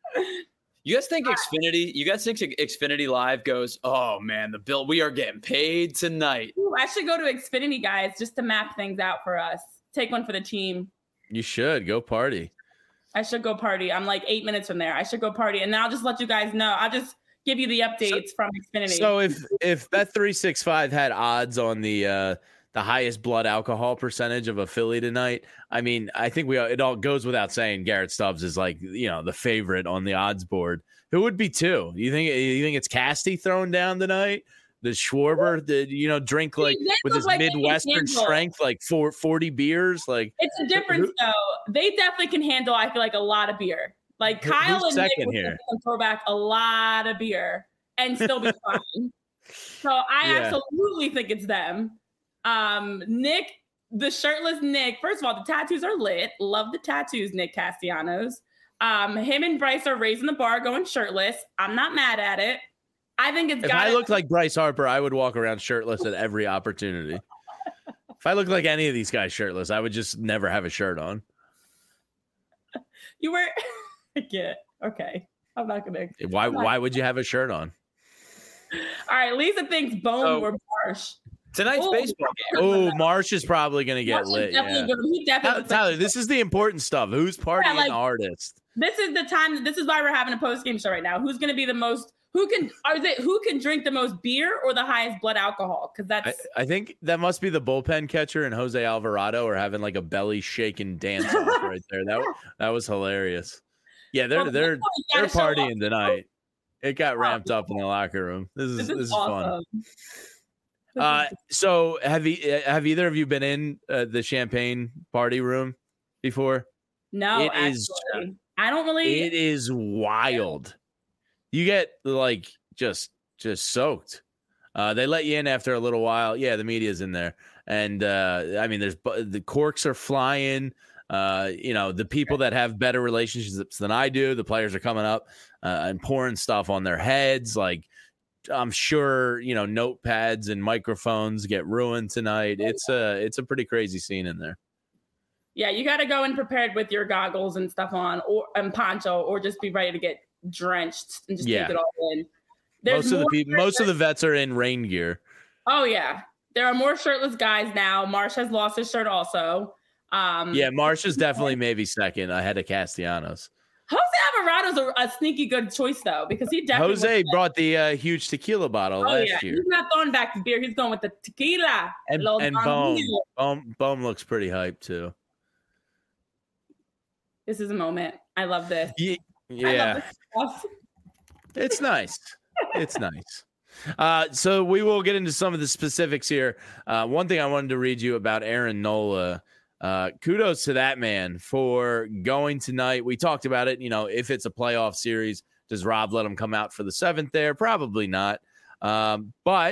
You guys think Xfinity? You guys think Xfinity Live goes? Oh man, the bill. We are getting paid tonight.
Ooh, I should go to Xfinity, guys, just to map things out for us. Take one for the team.
You should go party.
I should go party. I'm like eight minutes from there. I should go party, and then I'll just let you guys know. I'll just give you the updates from Xfinity.
So if if Bet three sixty-five had odds on the uh, the highest blood alcohol percentage of a Philly tonight, I mean, I think we it all goes without saying Garrett Stubbs is like, you know, the favorite on the odds board. Who would be two? You think you think it's Casty thrown down tonight? The Schwarber, the you know, drink like
He did
with
look
his
like he can
Midwestern
handle.
strength, like four, forty beers. Like
It's a difference, though. They definitely can handle, I feel like, a lot of beer. Like
Who-
Kyle
who's
and Nick
second
will
here?
can throw back a lot of beer and still be fine. So I
Yeah.
absolutely think it's them. Um, Nick, the shirtless Nick. First of all, the tattoos are lit. Love the tattoos, Nick Castellanos. Um, him and Bryce are raising the bar, going shirtless. I'm not mad at it. I think it's
if
got.
I looked like Bryce Harper, I would walk around shirtless at every opportunity. If I looked like any of these guys shirtless, I would just never have a shirt on.
You were. I get it. Okay. I'm not gonna.
Why? Why would you have a shirt on?
All right. Lisa thinks Bone
Oh.
or Marsh.
Tonight's
Oh.
baseball game.
Oh, Marsh is probably going to get
Marsh is
lit.
definitely
Yeah.
good. He definitely
Tyler,
looks like-
Tyler, this is the important stuff. Who's partying
like-
artist?
This is the time. This is why we're having a post game show right now. Who's going to be the most? Who can? Or is it who can drink the most beer or the highest blood alcohol? Because
I,
that's.
I think that must be the bullpen catcher and Jose Alvarado are having like a belly shaking dance off right there. That that was hilarious. Yeah, they're
Well,
they're
you
they're
gotta show off.
partying tonight. It got ramped up in the locker room. This is
This
this
is,
is fun.
awesome. This
Uh,
is-
so have you have either of you been in uh, the champagne party room before?
no,
it
actually,
is-
I don't really.
It is wild. You get like just just soaked. Uh, they let you in after a little while. Yeah, the media's in there, and uh, I mean, there's bu- the corks are flying. Uh, you know, the people that have better relationships than I do, the players are coming up uh, and pouring stuff on their heads. Like, I'm sure you know, notepads and microphones get ruined tonight. It's a it's a pretty crazy scene in there.
Yeah, you got to go in prepared with your goggles and stuff on, or and poncho, or just be ready to get drenched and just
Yeah.
take it all in.
most of the
more
people, most of the vets are in rain gear.
Oh yeah, there are more shirtless guys now. Marsh has lost his shirt also. Um,
yeah, Marsh is definitely maybe second ahead of Castellanos.
Jose Alvarado's a, a sneaky good choice though, because he definitely
Jose brought the uh, huge tequila bottle
oh,
last
yeah.
year.
He's not throwing back the beer. He's going with the tequila.
And, and Bohm. Bohm. Bohm looks pretty hyped too.
This is a moment. I love this.
Yeah.
yeah. Love this
it's nice. It's nice. Uh, so we will get into some of the specifics here. Uh, one thing I wanted to read you about Aaron Nola. Uh, kudos to that man for going tonight. We talked about it. You know, if it's a playoff series, does Rob let him come out for the seventh there? Probably not. Um, but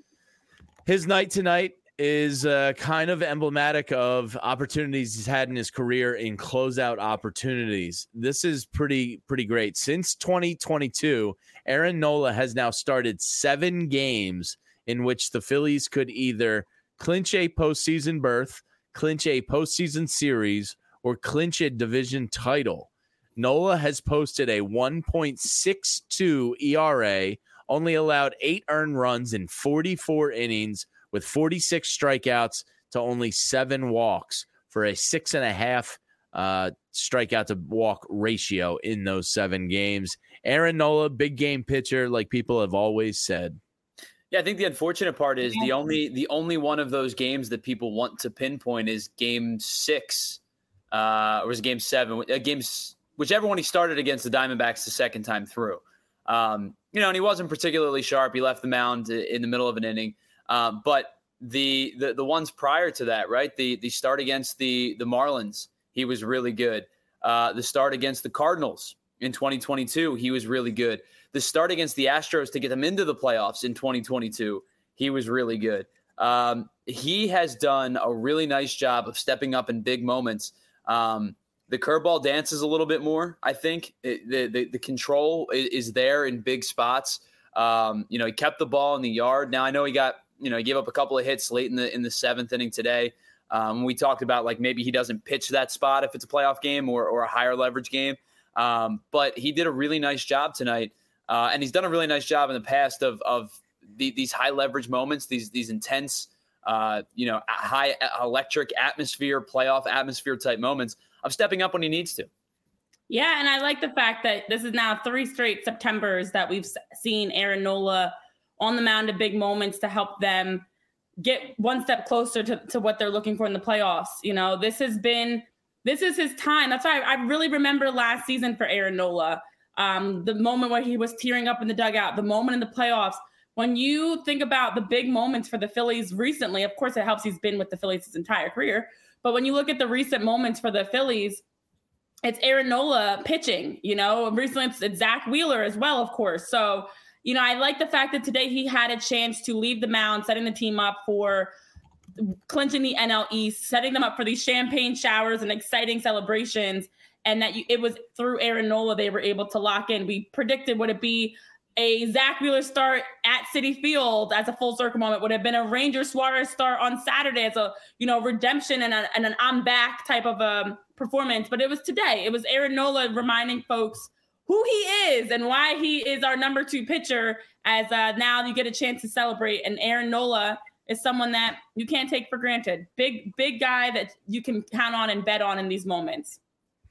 his night tonight is uh, kind of emblematic of opportunities he's had in his career in closeout opportunities. This is pretty, pretty great. Since twenty twenty-two, Aaron Nola has now started seven games in which the Phillies could either clinch a postseason berth, clinch a postseason series, or clinch a division title. Nola has posted a one point six two E R A, only allowed eight earned runs in forty-four innings with forty-six strikeouts to only seven walks for a six and a half uh, strikeout to walk ratio in those seven games. Aaron Nola, big game pitcher, like people have always said.
Yeah, I think the unfortunate part is the only the only one of those games that people want to pinpoint is game six, uh, or was it game seven? Uh, games, whichever one he started against the Diamondbacks the second time through. Um, you know, and he wasn't particularly sharp. He left the mound in the middle of an inning. Um, but the, the the ones prior to that, right? The the start against the the Marlins, he was really good. Uh, the start against the Cardinals in twenty twenty-two, he was really good. The start against the Astros to get them into the playoffs in twenty twenty-two, he was really good. Um, he has done a really nice job of stepping up in big moments. Um, the curveball dances a little bit more, I think. It, the, the the control is, is there in big spots. Um, you know, he kept the ball in the yard. Now I know he got, you know, he gave up a couple of hits late in the in the seventh inning today. Um, we talked about like maybe he doesn't pitch that spot if it's a playoff game or or a higher leverage game. Um, but he did a really nice job tonight. Uh, and he's done a really nice job in the past of of the, these high leverage moments, these these intense, uh, you know, high electric atmosphere, playoff atmosphere type moments of stepping up when he needs to.
Yeah, and I like the fact that this is now three straight Septembers that we've seen Aaron Nola on the mound at big moments to help them get one step closer to, to what they're looking for in the playoffs. You know, this has been this is his time. That's why I, I really remember last season for Aaron Nola. Um, the moment where he was tearing up in the dugout, the moment in the playoffs. When you think about the big moments for the Phillies recently, of course, it helps he's been with the Phillies his entire career. But when you look at the recent moments for the Phillies, it's Aaron Nola pitching. You know, recently it's, it's Zach Wheeler as well, of course. So, you know, I like the fact that today he had a chance to leave the mound, setting the team up for clinching the N L East, setting them up for these champagne showers and exciting celebrations. And that you, it was through Aaron Nola they were able to lock in. We predicted would it be a Zach Wheeler start at Citi Field as a full circle moment? Would it have been a Ranger Suarez start on Saturday as a, you know, redemption and, a, and an I'm back type of um, performance? But it was today. It was Aaron Nola reminding folks who he is and why he is our number two pitcher, as uh, now you get a chance to celebrate. And Aaron Nola is someone that you can't take for granted. Big, big guy that you can count on and bet on in these moments.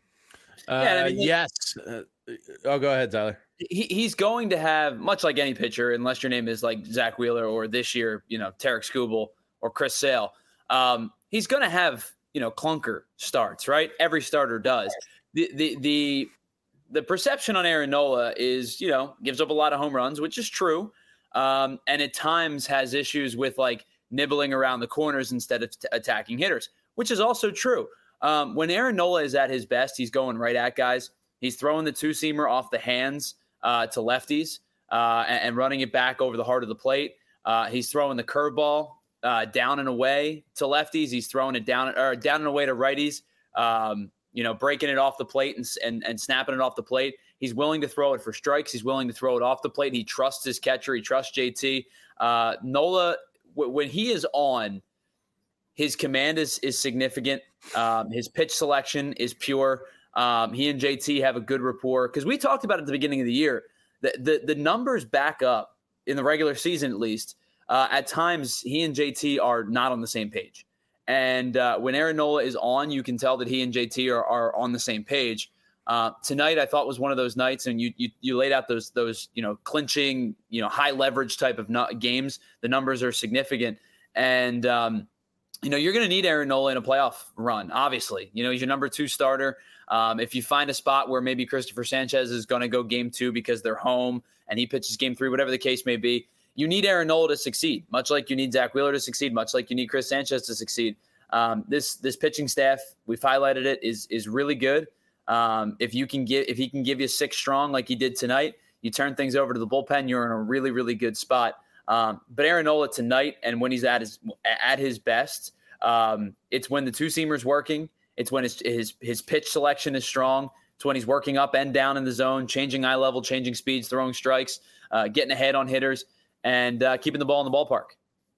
Uh, yeah, I mean, yes. Uh, oh, go ahead, Tyler.
He, he's going to have, much like any pitcher, unless your name is like Zach Wheeler or this year, you know, Tarek Skubal or Chris Sale, um, he's going to have, you know, clunker starts, right? Every starter does. The, the, the, the perception on Aaron Nola is, you know, gives up a lot of home runs, which is true. Um, and at times has issues with like nibbling around the corners instead of t- attacking hitters, which is also true. Um, when Aaron Nola is at his best, he's going right at guys. He's throwing the two-seamer off the hands uh, to lefties uh, and, and running it back over the heart of the plate. Uh, he's throwing the curveball uh, down and away to lefties. He's throwing it down or down and away to righties. Um, you know, breaking it off the plate and, and and snapping it off the plate. He's willing to throw it for strikes. He's willing to throw it off the plate. He trusts his catcher. He trusts J T. Uh, Nola, w- when he is on, his command is is significant. Um, his pitch selection is pure. Um, he and J T have a good rapport because we talked about it at the beginning of the year. The, the the numbers back up in the regular season, at least. uh, at times he and J T are not on the same page. And uh, when Aaron Nola is on, you can tell that he and J T are, are on the same page. Uh, tonight, I thought was one of those nights, and you you you laid out those those you know clinching, you know high leverage type of no- games. The numbers are significant, and um, you know you're going to need Aaron Nola in a playoff run. Obviously, you know he's your number two starter. Um, if you find a spot where maybe Christopher Sanchez is going to go game two because they're home and he pitches game three, whatever the case may be, you need Aaron Nola to succeed, much like you need Zach Wheeler to succeed, much like you need Chris Sanchez to succeed. Um, this this pitching staff, we've highlighted it, is is really good. Um, if you can give, if he can give you six strong like he did tonight, you turn things over to the bullpen, you're in a really, really good spot. Um, but Aaron Nola tonight, and when he's at his at his best, um, it's when the two seamer's working. It's when his, his his pitch selection is strong. It's when he's working up and down in the zone, changing eye level, changing speeds, throwing strikes, uh, getting ahead on hitters, and uh, keeping the ball in the ballpark.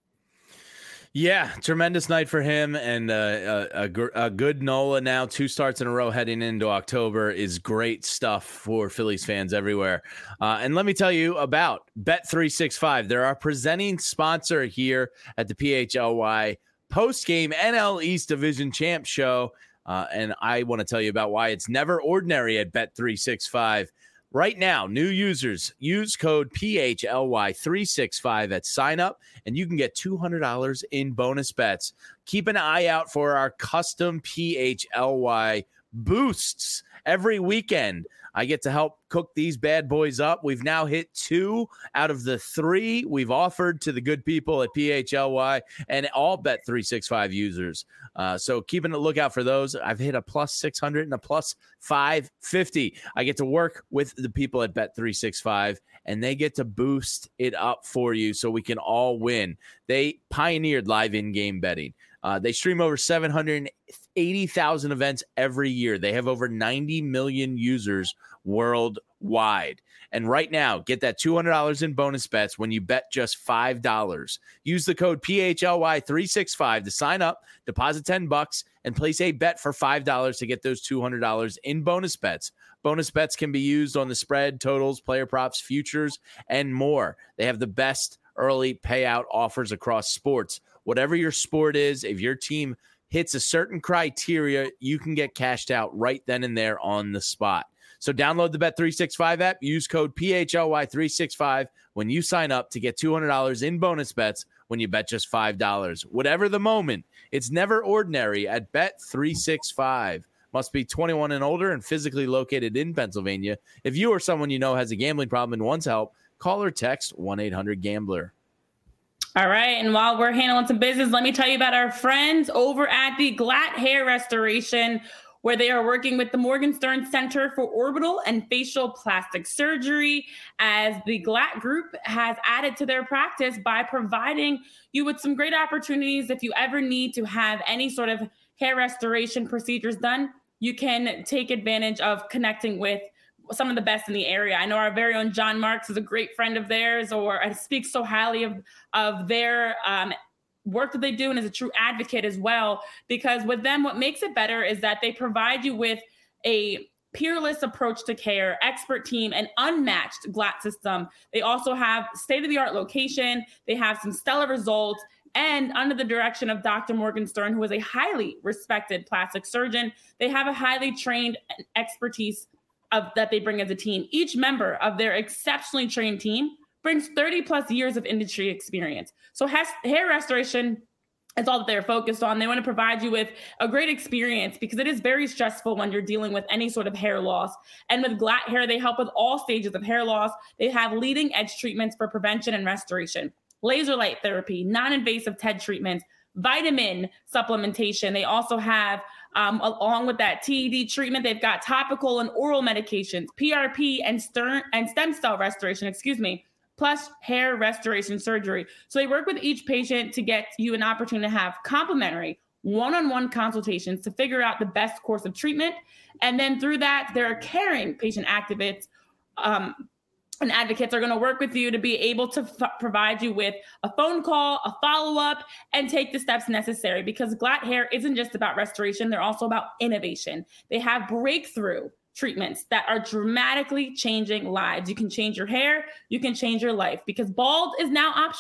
Yeah, tremendous night for him, and uh, a, a, a good Nola now, two starts in a row heading into October is great stuff for Phillies fans everywhere. Uh, and let me tell you about Bet three sixty-five. They're our presenting sponsor here at the P H L Y post-game N L East Division Champ Show, uh, and I want to tell you about why it's never ordinary at Bet three sixty-five. Right now, new users use code P H L Y three sixty-five at sign up, and you can get two hundred dollars in bonus bets. Keep an eye out for our custom P H L Y boosts every weekend. I get to help cook these bad boys up. We've now hit two out of the three we've offered to the good people at P H L Y and all Bet three sixty-five users. Uh, so keeping a lookout for those. I've hit a plus six hundred and a plus five fifty. I get to work with the people at Bet three sixty-five, and they get to boost it up for you so we can all win. They pioneered live in-game betting. Uh, they stream over seven hundred eighty thousand events every year. They have over ninety million users worldwide. And right now, get that two hundred dollars in bonus bets when you bet just five dollars. Use the code P H L Y three sixty-five to sign up, deposit ten bucks, and place a bet for five dollars to get those two hundred dollars in bonus bets. Bonus bets can be used on the spread, totals, player props, futures, and more. They have the best early payout offers across sports. Whatever your sport is, if your team hits a certain criteria, you can get cashed out right then and there on the spot. So download the Bet three sixty-five app, use code P H L Y three sixty-five when you sign up to get two hundred dollars in bonus bets when you bet just five dollars. Whatever the moment, it's never ordinary at Bet three sixty-five. Must be twenty-one and older and physically located in Pennsylvania. If you or someone you know has a gambling problem and wants help, call or text one eight hundred gambler.
All right, and while we're handling some business, let me tell you about our friends over at the Glatt Hair Restoration, where they are working with the Morgan Stern Center for Orbital and Facial Plastic Surgery, as the Glatt Group has added to their practice by providing you with some great opportunities. If you ever need to have any sort of hair restoration procedures done, you can take advantage of connecting with some of the best in the area. I know our very own John Marks is a great friend of theirs, or I speak so highly of, of their um, work that they do, and is a true advocate as well, because with them, what makes it better is that they provide you with a peerless approach to care, expert team, and unmatched Glatt system. They also have state-of-the-art location. They have some stellar results, and under the direction of Doctor Morgan Stern, who is a highly respected plastic surgeon, they have a highly trained expertise of that they bring as a team. Each member of their exceptionally trained team brings thirty plus years of industry experience. So has, hair restoration is all that they're focused on. They want to provide you with a great experience because it is very stressful when you're dealing with any sort of hair loss. And with Glatt Hair, they help with all stages of hair loss. They have leading edge treatments for prevention and restoration, laser light therapy, non-invasive T E D treatments, vitamin supplementation. They also have, um, along with that T E D treatment, they've got topical and oral medications, P R P and, stern, and stem cell restoration, excuse me, plus hair restoration surgery. So they work with each patient to get you an opportunity to have complimentary one-on-one consultations to figure out the best course of treatment. And then through that, there are caring patient activates, um, and advocates are going to work with you to be able to f- provide you with a phone call, a follow-up, and take the steps necessary, because Glatt Hair isn't just about restoration. They're also about innovation. They have breakthrough treatments that are dramatically changing lives. You can change your hair. You can change your life, because bald is now optional.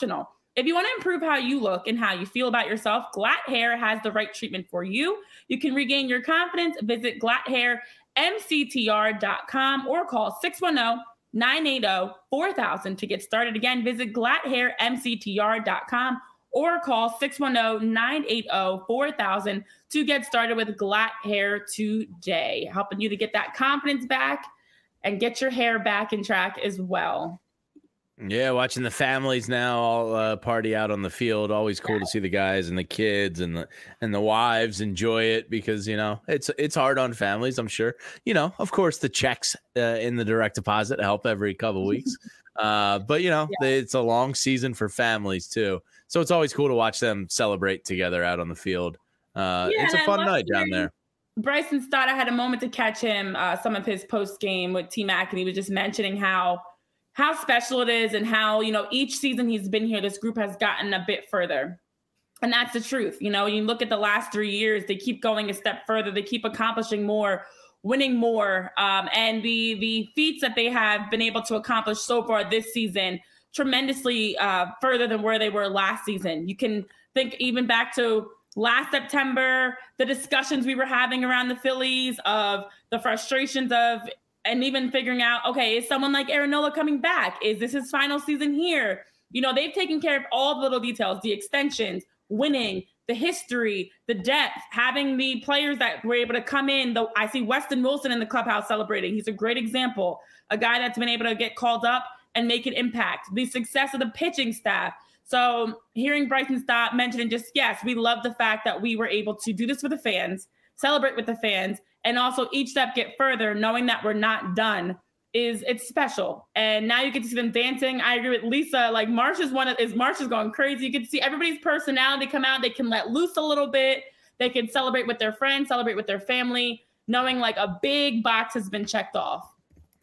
If you want to improve how you look and how you feel about yourself, Glatt Hair has the right treatment for you. You can regain your confidence. Visit glatt hair m c t r dot com or call six one zero, nine eight zero, four thousand to get started. Again, visit glatt hair m c t r dot com or call six one zero, nine eight zero, four thousand to get started with Glatt Hair today, helping you to get that confidence back and get your hair back in track as well.
Yeah, watching the families now all uh, party out on the field. Always cool to see the guys and the kids and the and the wives enjoy it because, you know, it's it's hard on families, I'm sure. You know, of course, the checks uh, in the direct deposit help every couple weeks. Uh, but, you know, yeah. It's a long season for families, too. So it's always cool to watch them celebrate together out on the field. Uh, yeah, it's a fun night down there.
Bryson Stott, I had a moment to catch him, uh, some of his post game with T-Mac, and he was just mentioning how how special it is and how, you know, each season he's been here, this group has gotten a bit further. And that's the truth. You know, you look at the last three years, they keep going a step further. They keep accomplishing more, winning more. Um, and the the feats that they have been able to accomplish so far this season, tremendously uh, further than where they were last season. You can think even back to last September, the discussions we were having around the Phillies of the frustrations of, and even figuring out, okay, is someone like Aaron Nola coming back? Is this his final season here? You know, they've taken care of all the little details, the extensions, winning, the history, the depth, having the players that were able to come in. Though I see Weston Wilson in the clubhouse celebrating. He's a great example, a guy that's been able to get called up and make an impact. The success of the pitching staff. So hearing Bryson Stott mentioning just, yes, we love the fact that we were able to do this for the fans, celebrate with the fans, and also each step get further, knowing that we're not done, is it's special. And now you get to see them dancing. I agree with Lisa. Like Marsh is one of is Marsh is going crazy. You get to see everybody's personality come out. They can let loose a little bit. They can celebrate with their friends, celebrate with their family, knowing like a big box has been checked off.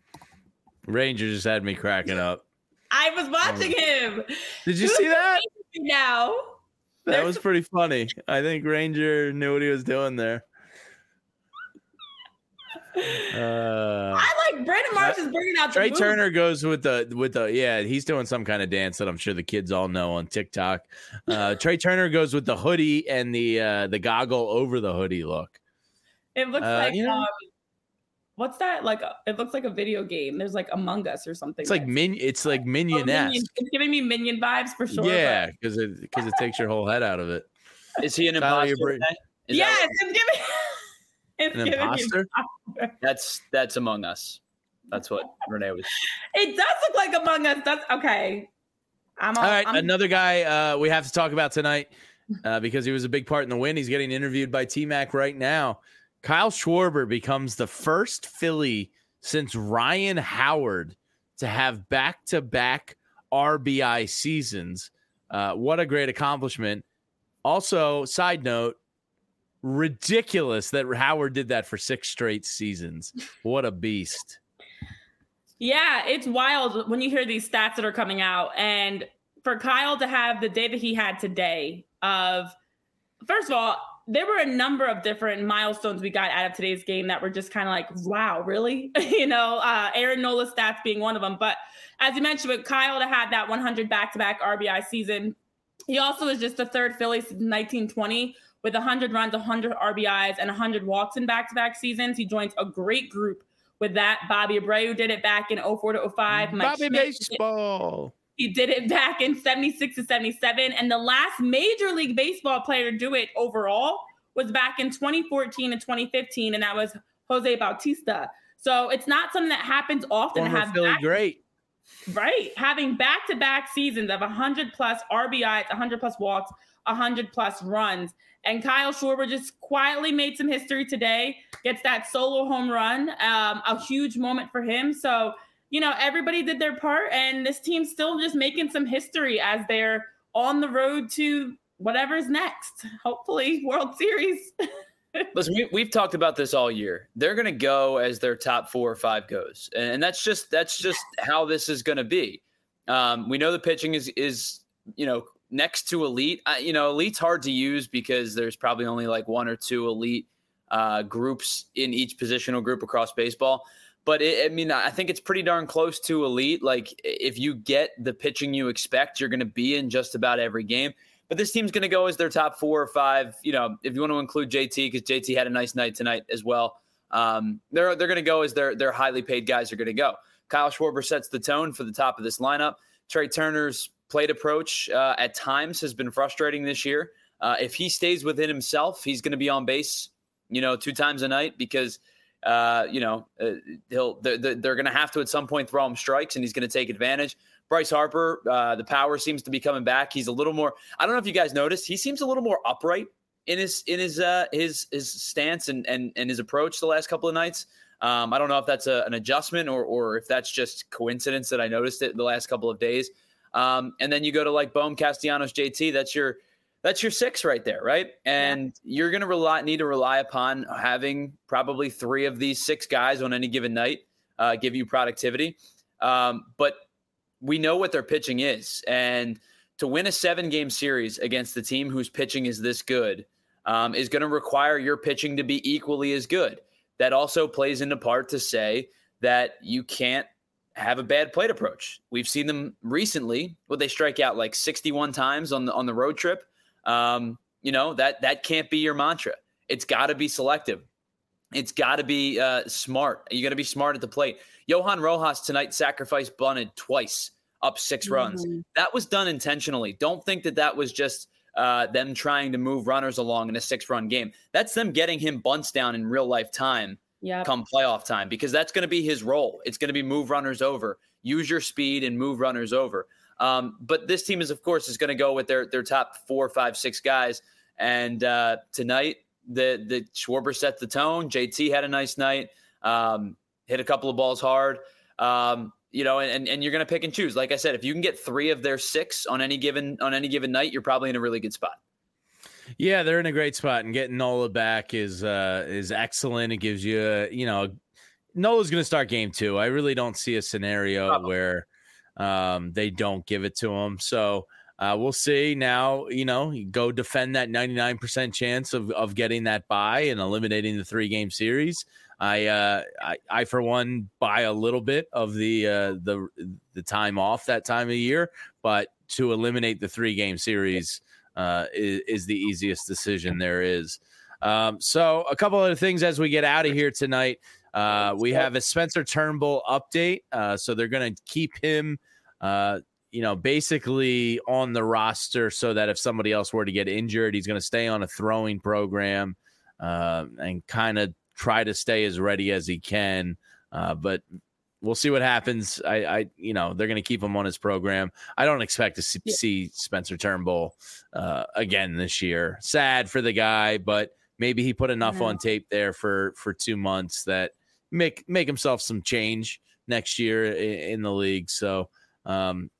Ranger just had me cracking up.
I was watching him.
Did you see that?
Now
that There's... was pretty funny. I think Ranger knew what he was doing there. Uh,
I like Brandon Marsh is bringing out the
Trey
moves.
Turner goes with the with the yeah he's doing some kind of dance that I'm sure the kids all know on TikTok. Uh, Trey Turner goes with the hoodie and the uh, the goggle over the hoodie look.
It looks
uh,
like
you know,
um, what's that like? It looks like a video game. There's like Among Us or something.
It's like min. It's like Minion-esque.
Oh, Minion. It's giving me Minion vibes for sure.
Yeah, because it because it takes your whole head out of it.
Is he an imposter?
Yes, it's giving. It's
an imposter?
That's that's Among Us. That's what Renee was.
It does look like Among Us. That's okay. I'm all,
all right.
I'm...
Another guy uh, we have to talk about tonight uh, because he was a big part in the win. He's getting interviewed by T-Mac right now. Kyle Schwarber becomes the first Philly since Ryan Howard to have back-to-back R B I seasons. Uh, what a great accomplishment. Also, side note, ridiculous that Howard did that for six straight seasons. What a beast.
Yeah, it's wild when you hear these stats that are coming out. And for Kyle to have the day that he had today of, first of all, there were a number of different milestones we got out of today's game that were just kind of like, wow, really? you know, uh, Aaron Nola's stats being one of them. But as you mentioned, with Kyle to have that one hundred back-to-back R B I season, he also is just the third Philly since nineteen twenty with one hundred runs, one hundred R B Is, and one hundred walks in back-to-back seasons. He joins a great group with that. Bobby Abreu did it back in oh four to oh five. Mike
Bobby
Schmidt
Baseball.
He did it back in seventy-six to seventy-seven. And the last Major League Baseball player to do it overall was back in twenty fourteen and twenty fifteen, and that was Jose Bautista. So it's not something that happens often.
Former
to have
Philly
back-
great.
Right. Having back-to-back seasons of one hundred plus R B Is, one hundred plus walks, one hundred plus runs. And Kyle Schwarber just quietly made some history today, gets that solo home run, um, a huge moment for him. So, you know, everybody did their part, and this team's still just making some history as they're on the road to whatever's next. Hopefully, World Series.
Listen, we, we've talked about this all year. They're going to go as their top four or five goes, and that's just that's just how this is going to be. Um, we know the pitching is is you know next to elite. Uh, you know, elite's hard to use because there's probably only like one or two elite uh, groups in each positional group across baseball. but it, I mean, I think it's pretty darn close to elite. Like if you get the pitching you expect, you're going to be in just about every game. But this team's going to go as their top four or five. You know, if you want to include J T, because J T had a nice night tonight as well. Um, they're they're going to go as their their highly paid guys are going to go. Kyle Schwarber sets the tone for the top of this lineup. Trey Turner's plate approach uh, at times has been frustrating this year. Uh, if he stays within himself, he's going to be on base, you know, two times a night because, uh, you know, uh, he'll they're, they're going to have to at some point throw him strikes, and he's going to take advantage. Bryce Harper, uh, the power seems to be coming back. He's a little more. I don't know if you guys noticed. He seems a little more upright in his in his uh, his his stance and and and his approach the last couple of nights. Um, I don't know if that's a, an adjustment or or if that's just coincidence that I noticed it the last couple of days. Um, and then you go to like Bohm, Castellanos, J T. That's your that's your six right there, right? And yeah. You're going to rely need to rely upon having probably three of these six guys on any given night uh, give you productivity. Um, but we know what their pitching is, and to win a seven-game series against the team whose pitching is this good um, is going to require your pitching to be equally as good. That also plays into part to say that you can't have a bad plate approach. We've seen them recently. Would they strike out like sixty-one times on the on the road trip? Um, you know that that can't be your mantra. It's got to be selective. It's got to be uh, smart. You got to be smart at the plate. Johan Rojas tonight sacrifice bunted twice, up six mm-hmm. runs. That was done intentionally. Don't think that that was just uh, them trying to move runners along in a six-run game. That's them getting him bunts down in real-life time yep. come playoff time, because that's going to be his role. It's going to be move runners over, use your speed and move runners over. Um, but this team is, of course, is going to go with their their top four, five, six guys. And uh, tonight, the the Schwarber set the tone. J T had a nice night. Um, hit a couple of balls hard, um, you know, and, and you're going to pick and choose. Like I said, if you can get three of their six on any given on any given night, you're probably in a really good spot.
Yeah, they're in a great spot, and getting Nola back is uh, is excellent. It gives you, a, you know, Nola's going to start game two. I really don't see a scenario probably. where um, they don't give it to him. So uh, we'll see. Now, you know, you go defend that ninety-nine percent chance of of getting that bye and eliminating the three game series. I, uh, I, I, for one, buy a little bit of the uh, the the time off that time of year, but to eliminate the three game series uh, is, is the easiest decision there is. Um, so, a couple other things as we get out of here tonight. Uh, we have a Spencer Turnbull update. Uh, so they're going to keep him, uh, you know, basically on the roster so that if somebody else were to get injured, he's going to stay on a throwing program uh, and kind of try to stay as ready as he can, uh, but we'll see what happens. I, I you know, they're going to keep him on his program. I don't expect to see, yeah. see Spencer Turnbull uh, again this year. Sad for the guy, but maybe he put enough yeah. on tape there for, for two months that make make himself some change next year in, in the league. So, um,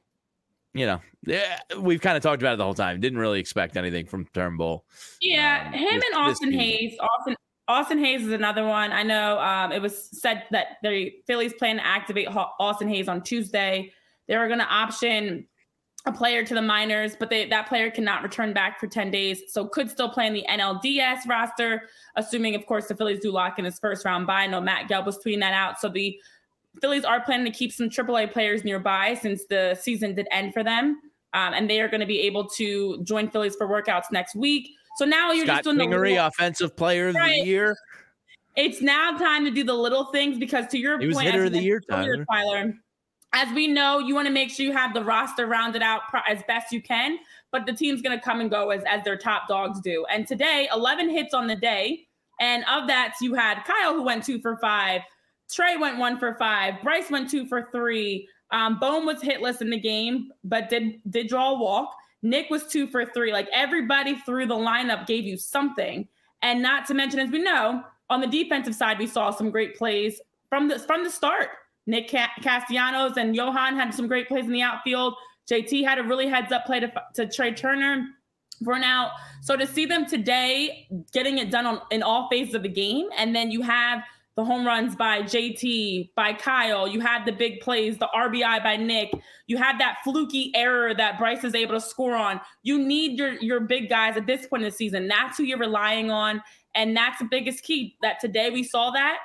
you know, yeah, we've kind of talked about it the whole time. Didn't really expect anything from Turnbull.
Yeah,
um,
him
this,
and Austin Hayes. Austin Austin Hayes is another one. I know um, it was said that the Phillies plan to activate Austin Hayes on Tuesday. They were going to option a player to the minors, but they, that player cannot return back for ten days, so could still play in the N L D S roster, assuming, of course, the Phillies do lock in his first round bye. I know Matt Gelb was tweeting that out. So the Phillies are planning to keep some triple A players nearby since the season did end for them, um, and they are going to be able to join Phillies for workouts next week. So now you're
Scott
just doing
Kingery,
the little,
offensive player of
right.
the year.
It's now time to do the little things because, to your
he
point,
was hitter of the year,
Tyler. Tyler, as we know, you want to make sure you have the roster rounded out as best you can, but the team's going to come and go as, as their top dogs do. And today, eleven hits on the day, and of that, you had Kyle, who went two for five. Trey went one for five. Bryce went two for three. Um, Bohm was hitless in the game, but did did draw a walk. Nick was two for three. Like, everybody through the lineup gave you something. And not to mention, as we know, on the defensive side, we saw some great plays from the from the start. Nick Castellanos and Johan had some great plays in the outfield. J T had a really heads-up play to, to Trey Turner for an out. So to see them today getting it done on in all phases of the game, and then you have the home runs by J T, by Kyle. You had the big plays, the R B I by Nick. You had that fluky error that Bryce is able to score on. You need your, your big guys at this point in the season. That's who you're relying on, and that's the biggest key, that today we saw that.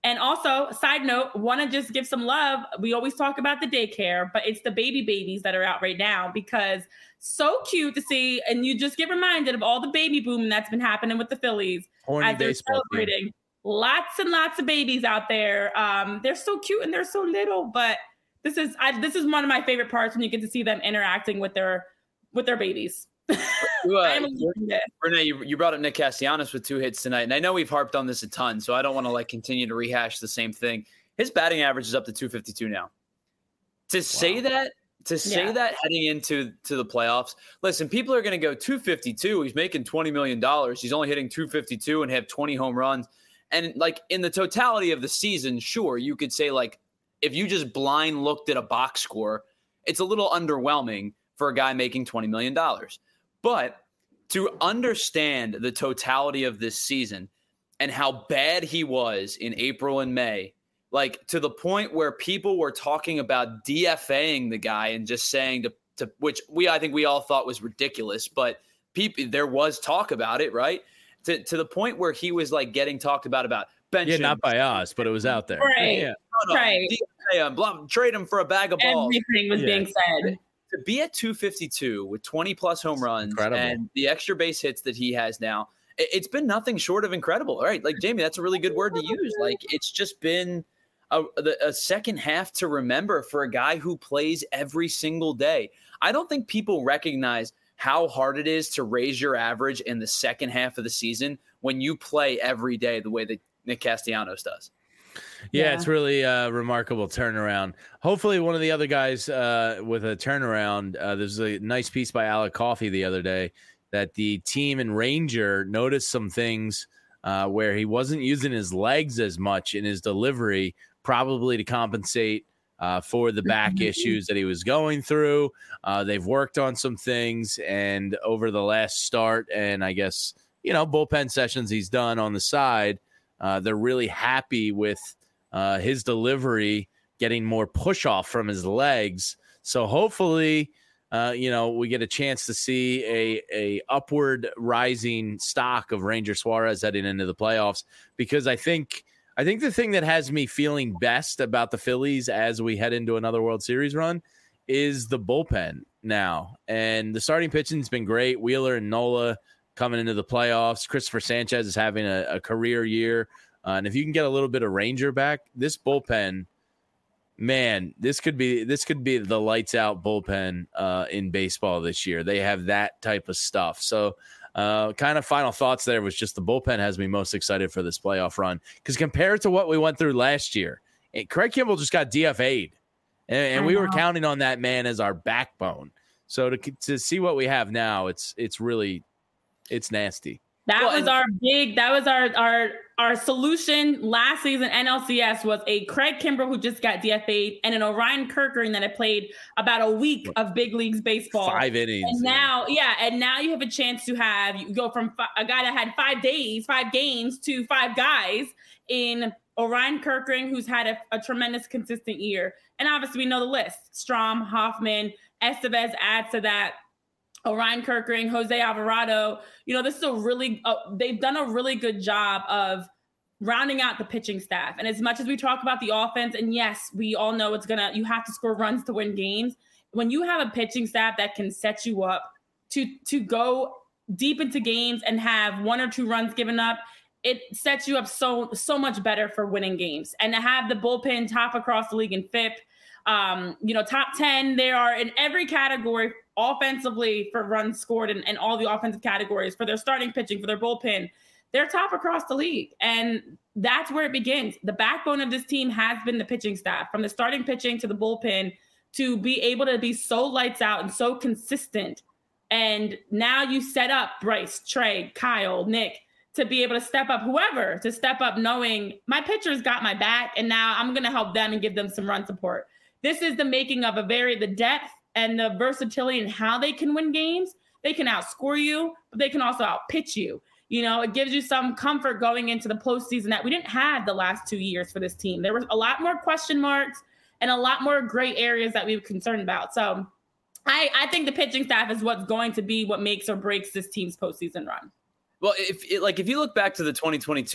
And also, side note, want to just give some love. We always talk about the daycare, but it's the baby babies that are out right now because so cute to see. And you just get reminded of all the baby boom that's been happening with the Phillies
Horny
as they're celebrating. Team. Lots and lots of babies out there. Um, they're so cute and they're so little, but this is I, this is one of my favorite parts when you get to see them interacting with their with their babies.
You, uh, Renee, you, you brought up Nick Castellanos with two hits tonight, and I know we've harped on this a ton, so I don't want to like continue to rehash the same thing. His batting average is up to two fifty-two now. To wow. say that, to say yeah. that heading into to the playoffs, listen, people are going to go two fifty-two. He's making twenty million dollars. He's only hitting two fifty-two and have twenty home runs. And like in the totality of the season, sure, you could say like if you just blind looked at a box score, it's a little underwhelming for a guy making twenty million dollars. But to understand the totality of this season and how bad he was in April and May, like to the point where people were talking about DFAing the guy and just saying to, to which we, I think we all thought was ridiculous, but people, there was talk about it, right? To, to the point where he was like getting talked about, about benching.
Yeah, not by us, but it was out there.
Right.
Yeah.
No, no,
right.
D F A him, blah, trade him for a bag of balls.
Everything was yeah. being said.
To be at two fifty-two with twenty plus home runs
incredible.
And the extra base hits that he has now, it, it's been nothing short of incredible. All right. Like Jamie, that's a really good word to use. Like it's just been a, a second half to remember for a guy who plays every single day. I don't think people recognize how hard it is to raise your average in the second half of the season when you play every day the way that Nick Castellanos does.
Yeah,
yeah,
it's really a remarkable turnaround. Hopefully one of the other guys uh, with a turnaround, uh, there's a nice piece by Alec Coffey the other day that the team and Ranger noticed some things uh, where he wasn't using his legs as much in his delivery, probably to compensate uh, for the back issues that he was going through. Uh, they've worked on some things, and over the last start and I guess, you know, bullpen sessions he's done on the side, uh, they're really happy with uh, his delivery, getting more push off from his legs. So hopefully, uh, you know, we get a chance to see a, a upward rising stock of Ranger Suarez heading into the playoffs, because I think, I think the thing that has me feeling best about the Phillies as we head into another World Series run is the bullpen now. And the starting pitching has been great. Wheeler and Nola coming into the playoffs. Christopher Sanchez is having a, a career year. Uh, and if you can get a little bit of Ranger back, this bullpen, man, this could be this could be the lights out bullpen uh, in baseball this year. They have that type of stuff. So uh, kind of final thoughts there was just the bullpen has me most excited for this playoff run, because compared to what we went through last year, it, Craig Kimbrell just got D F A'd, and, and we were counting on that man as our backbone. So to to see what we have now, it's it's really it's nasty.
That
well,
was
and-
our big, that was our, our, our solution last season. N L C S was a Craig Kimbrell who just got D F A'd and an Orion Kerkering that had played about a week of big leagues baseball.
Five innings.
And now, yeah. And now you have a chance to have, you go from fi- a guy that had five days, five games to five guys in Orion Kerkering, who's had a, a tremendous consistent year. And obviously we know the list. Strom, Hoffman, Estevez adds to that. Orion Kerkering, Jose Alvarado, you know, this is a really, uh, they've done a really good job of rounding out the pitching staff. And as much as we talk about the offense, and yes, we all know it's going to, you have to score runs to win games. When you have a pitching staff that can set you up to, to go deep into games and have one or two runs given up, it sets you up so, so much better for winning games. And to have the bullpen top across the league in F I P, um, you know, top ten, they are in every category offensively for runs scored and, and all the offensive categories for their starting pitching, for their bullpen. They're top across the league. And that's where it begins. The backbone of this team has been the pitching staff, from the starting pitching to the bullpen, to be able to be so lights out and so consistent. And now you set up Bryce, Trey, Kyle, Nick, to be able to step up, whoever, to step up knowing my pitcher's got my back, and now I'm going to help them and give them some run support. This is the making of a very, the depth and the versatility in how they can win games. They can outscore you, but they can also outpitch you. You know, it gives you some comfort going into the postseason that we didn't have the last two years for this team. There was a lot more question marks and a lot more gray areas that we were concerned about. So I, I think the pitching staff is what's going to be what makes or breaks this team's postseason run.
Well, if it, like if you look back to the twenty twenty-two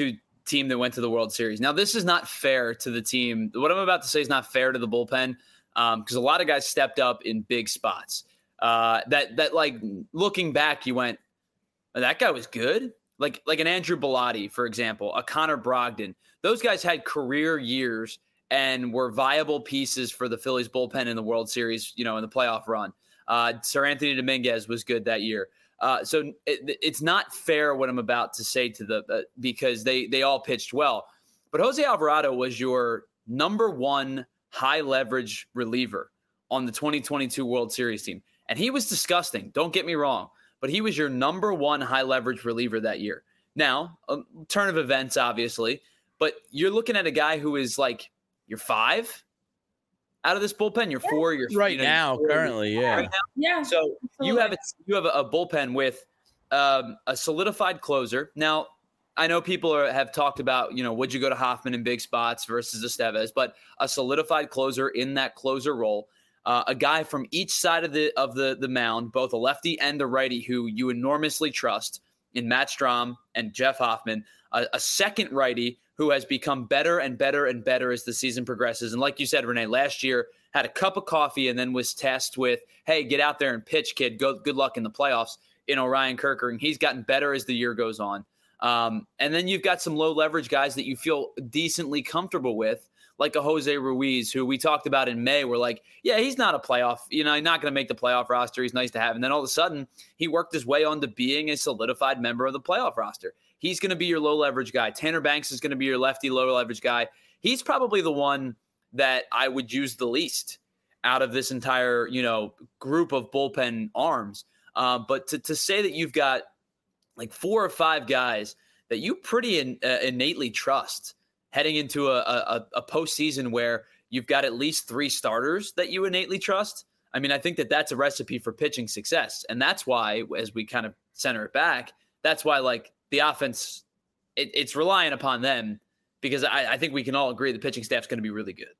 team that went to the World Series. Now, this is not fair to the team. What I'm about to say is not fair to the bullpen because um, a lot of guys stepped up in big spots. Uh, that that like looking back, you went, oh, that guy was good. Like like an Andrew Bellotti, for example, a Connor Brogdon. Those guys had career years and were viable pieces for the Phillies bullpen in the World Series, you know, in the playoff run. Uh, Sir Anthony Dominguez was good that year. Uh, so it, it's not fair what I'm about to say to the uh, because they they all pitched well. But Jose Alvarado was your number one high leverage reliever on the twenty twenty-two World Series team. And he was disgusting. Don't get me wrong. But he was your number one high leverage reliever that year. Now, a turn of events, obviously. But you're looking at a guy who is like, you're five out of this bullpen. You're four. You're
right
you know,
now,
four,
currently, yeah.
Right yeah.
So
absolutely.
you have a, you have a, a bullpen with um, a solidified closer. Now, I know people are, have talked about, you know, would you go to Hoffman in big spots versus Estevez, but a solidified closer in that closer role. Uh, a guy from each side of the of the, the mound, both a lefty and a righty who you enormously trust in Matt Strahm and Jeff Hoffman, a, a second righty who has become better and better and better as the season progresses. And like you said, Renee, last year had a cup of coffee and then was tasked with, hey, get out there and pitch, kid. Go, good luck in the playoffs. You know, Ryan Kerkering, he's gotten better as the year goes on. Um, and then you've got some low leverage guys that you feel decently comfortable with, like a Jose Ruiz, who we talked about in May. We're like, yeah, he's not a playoff, you know, he's not going to make the playoff roster. He's nice to have. And then all of a sudden he worked his way onto being a solidified member of the playoff roster. He's going to be your low leverage guy. Tanner Banks is going to be your lefty low leverage guy. He's probably the one that I would use the least out of this entire, you know, group of bullpen arms. Uh, but to, to say that you've got like four or five guys that you pretty in, uh, innately trust heading into a, a, a postseason where you've got at least three starters that you innately trust. I mean, I think that that's a recipe for pitching success. And that's why, as we kind of center it back, that's why like the offense, it, it's relying upon them because I, I think we can all agree the pitching staff's going to be really good.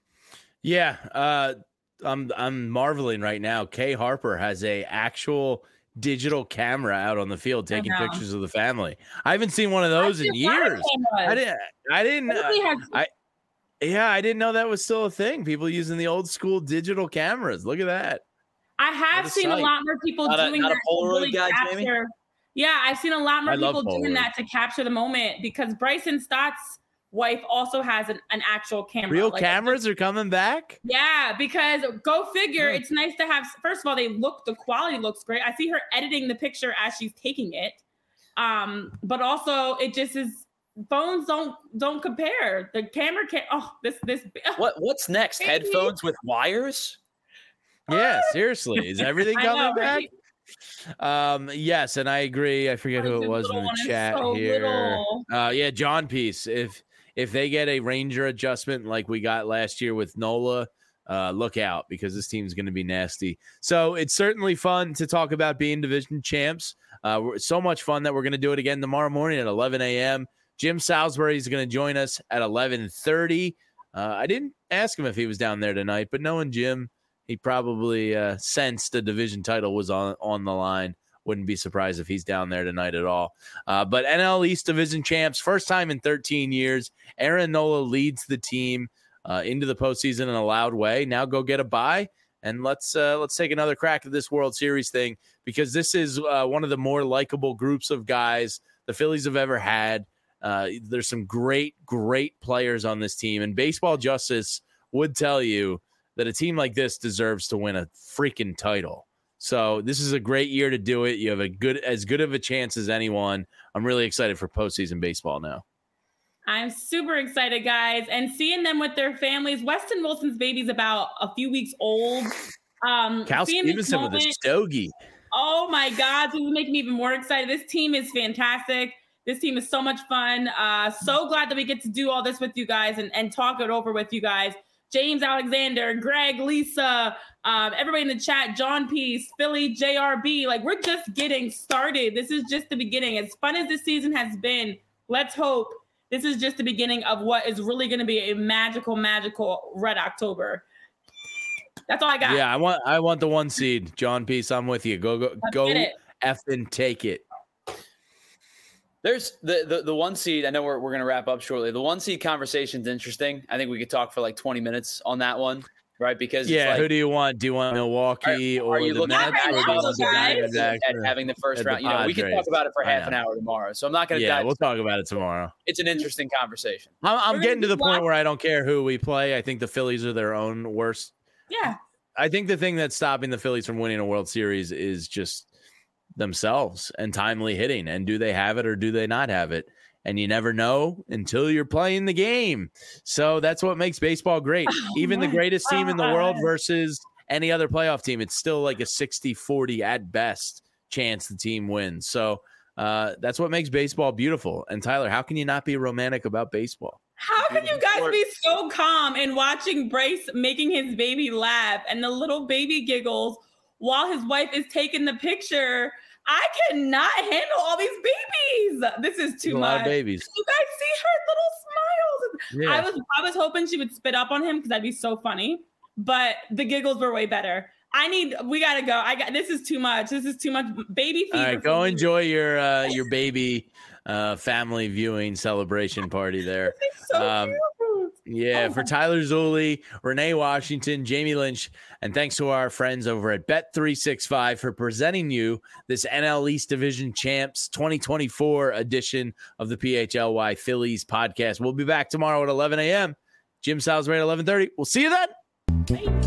Yeah. Uh, I'm, I'm marveling right now. Kay Harper has a actual digital camera out on the field taking pictures of the family. I haven't seen one of those in years. I didn't. I didn't. Uh, I yeah. I didn't know that was still a thing. People using the old school digital cameras. Look at that.
I have seen sight. a lot more people
not
doing
a, not
that
a Polaroid
to really
guy,
capture.
Jamie?
Yeah, I've seen a lot more
I
people doing
Polaroid.
that to capture the moment because Bryson Stott's wife also has an, an actual camera.
Real
like,
cameras are coming back?
Yeah, because go figure, it's nice to have, first of all, they look, the quality looks great. I see her editing the picture as she's taking it. Um, but also it just is, phones don't don't compare. The camera can oh this this
what what's next? Headphones with wires?
Yeah, seriously. Is everything coming
know,
back?
Right?
Um, yes, and I agree. I forget who it was in the chat
so
here. Uh, yeah, John Peace. If if they get a Ranger adjustment like we got last year with Nola, uh, look out because this team's going to be nasty. So it's certainly fun to talk about being division champs. Uh, so much fun that we're going to do it again tomorrow morning at eleven a.m. Jim Salisbury is going to join us at eleven thirty. Uh, I didn't ask him if he was down there tonight, but knowing Jim, he probably uh, sensed the division title was on, on the line. Wouldn't be surprised if he's down there tonight at all. Uh, but N L East division champs, first time in thirteen years. Aaron Nola leads the team uh, into the postseason in a loud way. Now go get a bye, and let's uh, let's take another crack at this World Series thing because this is uh, one of the more likable groups of guys the Phillies have ever had. Uh, there's some great, great players on this team, and Baseball Justice would tell you that a team like this deserves to win a freaking title. So this is a great year to do it. You have a good, as good of a chance as anyone. I'm really excited for postseason baseball now.
I'm super excited, guys, and seeing them with their families. Weston Wilson's baby's about a few weeks old. Um,
Cal Stevenson with a stogie.
Oh my God, this is making me even more excited. This team is fantastic. This team is so much fun. Uh, so glad that we get to do all this with you guys and, and talk it over with you guys. James Alexander, Greg, Lisa, um, everybody in the chat, John Peace, Philly, J R B. Like, we're just getting started. This is just the beginning. As fun as this season has been, let's hope this is just the beginning of what is really going to be a magical, magical Red October. That's all I got.
Yeah, I want I want the one seed. John Peace, I'm with you. Go, go,
Let's
go effing take it.
There's the, the the one seed. I know we're we're gonna wrap up shortly. The one seed conversation's interesting. I think we could talk for like twenty minutes on that one, right? Because
yeah,
it's like,
who do you want? Do you want Milwaukee
are,
or
are you
the
looking
Mets?
at,
Or do you want the
guys?
Diamondbacks
at
or-
having the first
at the
round? You know, we can talk
Padres?
about it for
I
half an
know.
hour tomorrow. So I'm not gonna
Yeah,
dive.
we'll talk about it tomorrow.
It's an interesting conversation.
I'm, I'm
We're
getting to
gonna
the point
watch-
where I don't care who we play. I think the Phillies are their own worst.
Yeah.
I think the thing that's stopping the Phillies from winning a World Series is just themselves and timely hitting. And do they have it or do they not have it? And you never know until you're playing the game. So that's what makes baseball great.
Oh
Even the
my
greatest team in the world
God.
versus any other playoff team, it's still like a sixty forty at best chance the team wins. So uh, that's what makes baseball beautiful. And Tyler, how can you not be romantic about baseball?
How can you guys be so calm in watching Brace making his baby laugh and the little baby giggles while his wife is taking the picture? I cannot handle all these babies. This is too
A lot
much.
of babies.
You guys see her little smiles.
Yeah.
I was I was hoping she would spit up on him because that'd be so funny. But the giggles were way better. I need. We gotta go. I got. This is too much. This is too much baby fever.
All right,
for
go
me.
enjoy your uh, your baby uh, family viewing celebration party there.
This is so
Um,
cute.
Yeah,
Oh
for
my-
Tyler Zulli, Renee Washington, Jamie Lynch, and thanks to our friends over at Bet three sixty-five for presenting you this N L East Division Champs twenty twenty-four edition of the P H L Y Phillies podcast. We'll be back tomorrow at eleven a.m. Jim Salisbury at eleven thirty. We'll see you then.
Bye.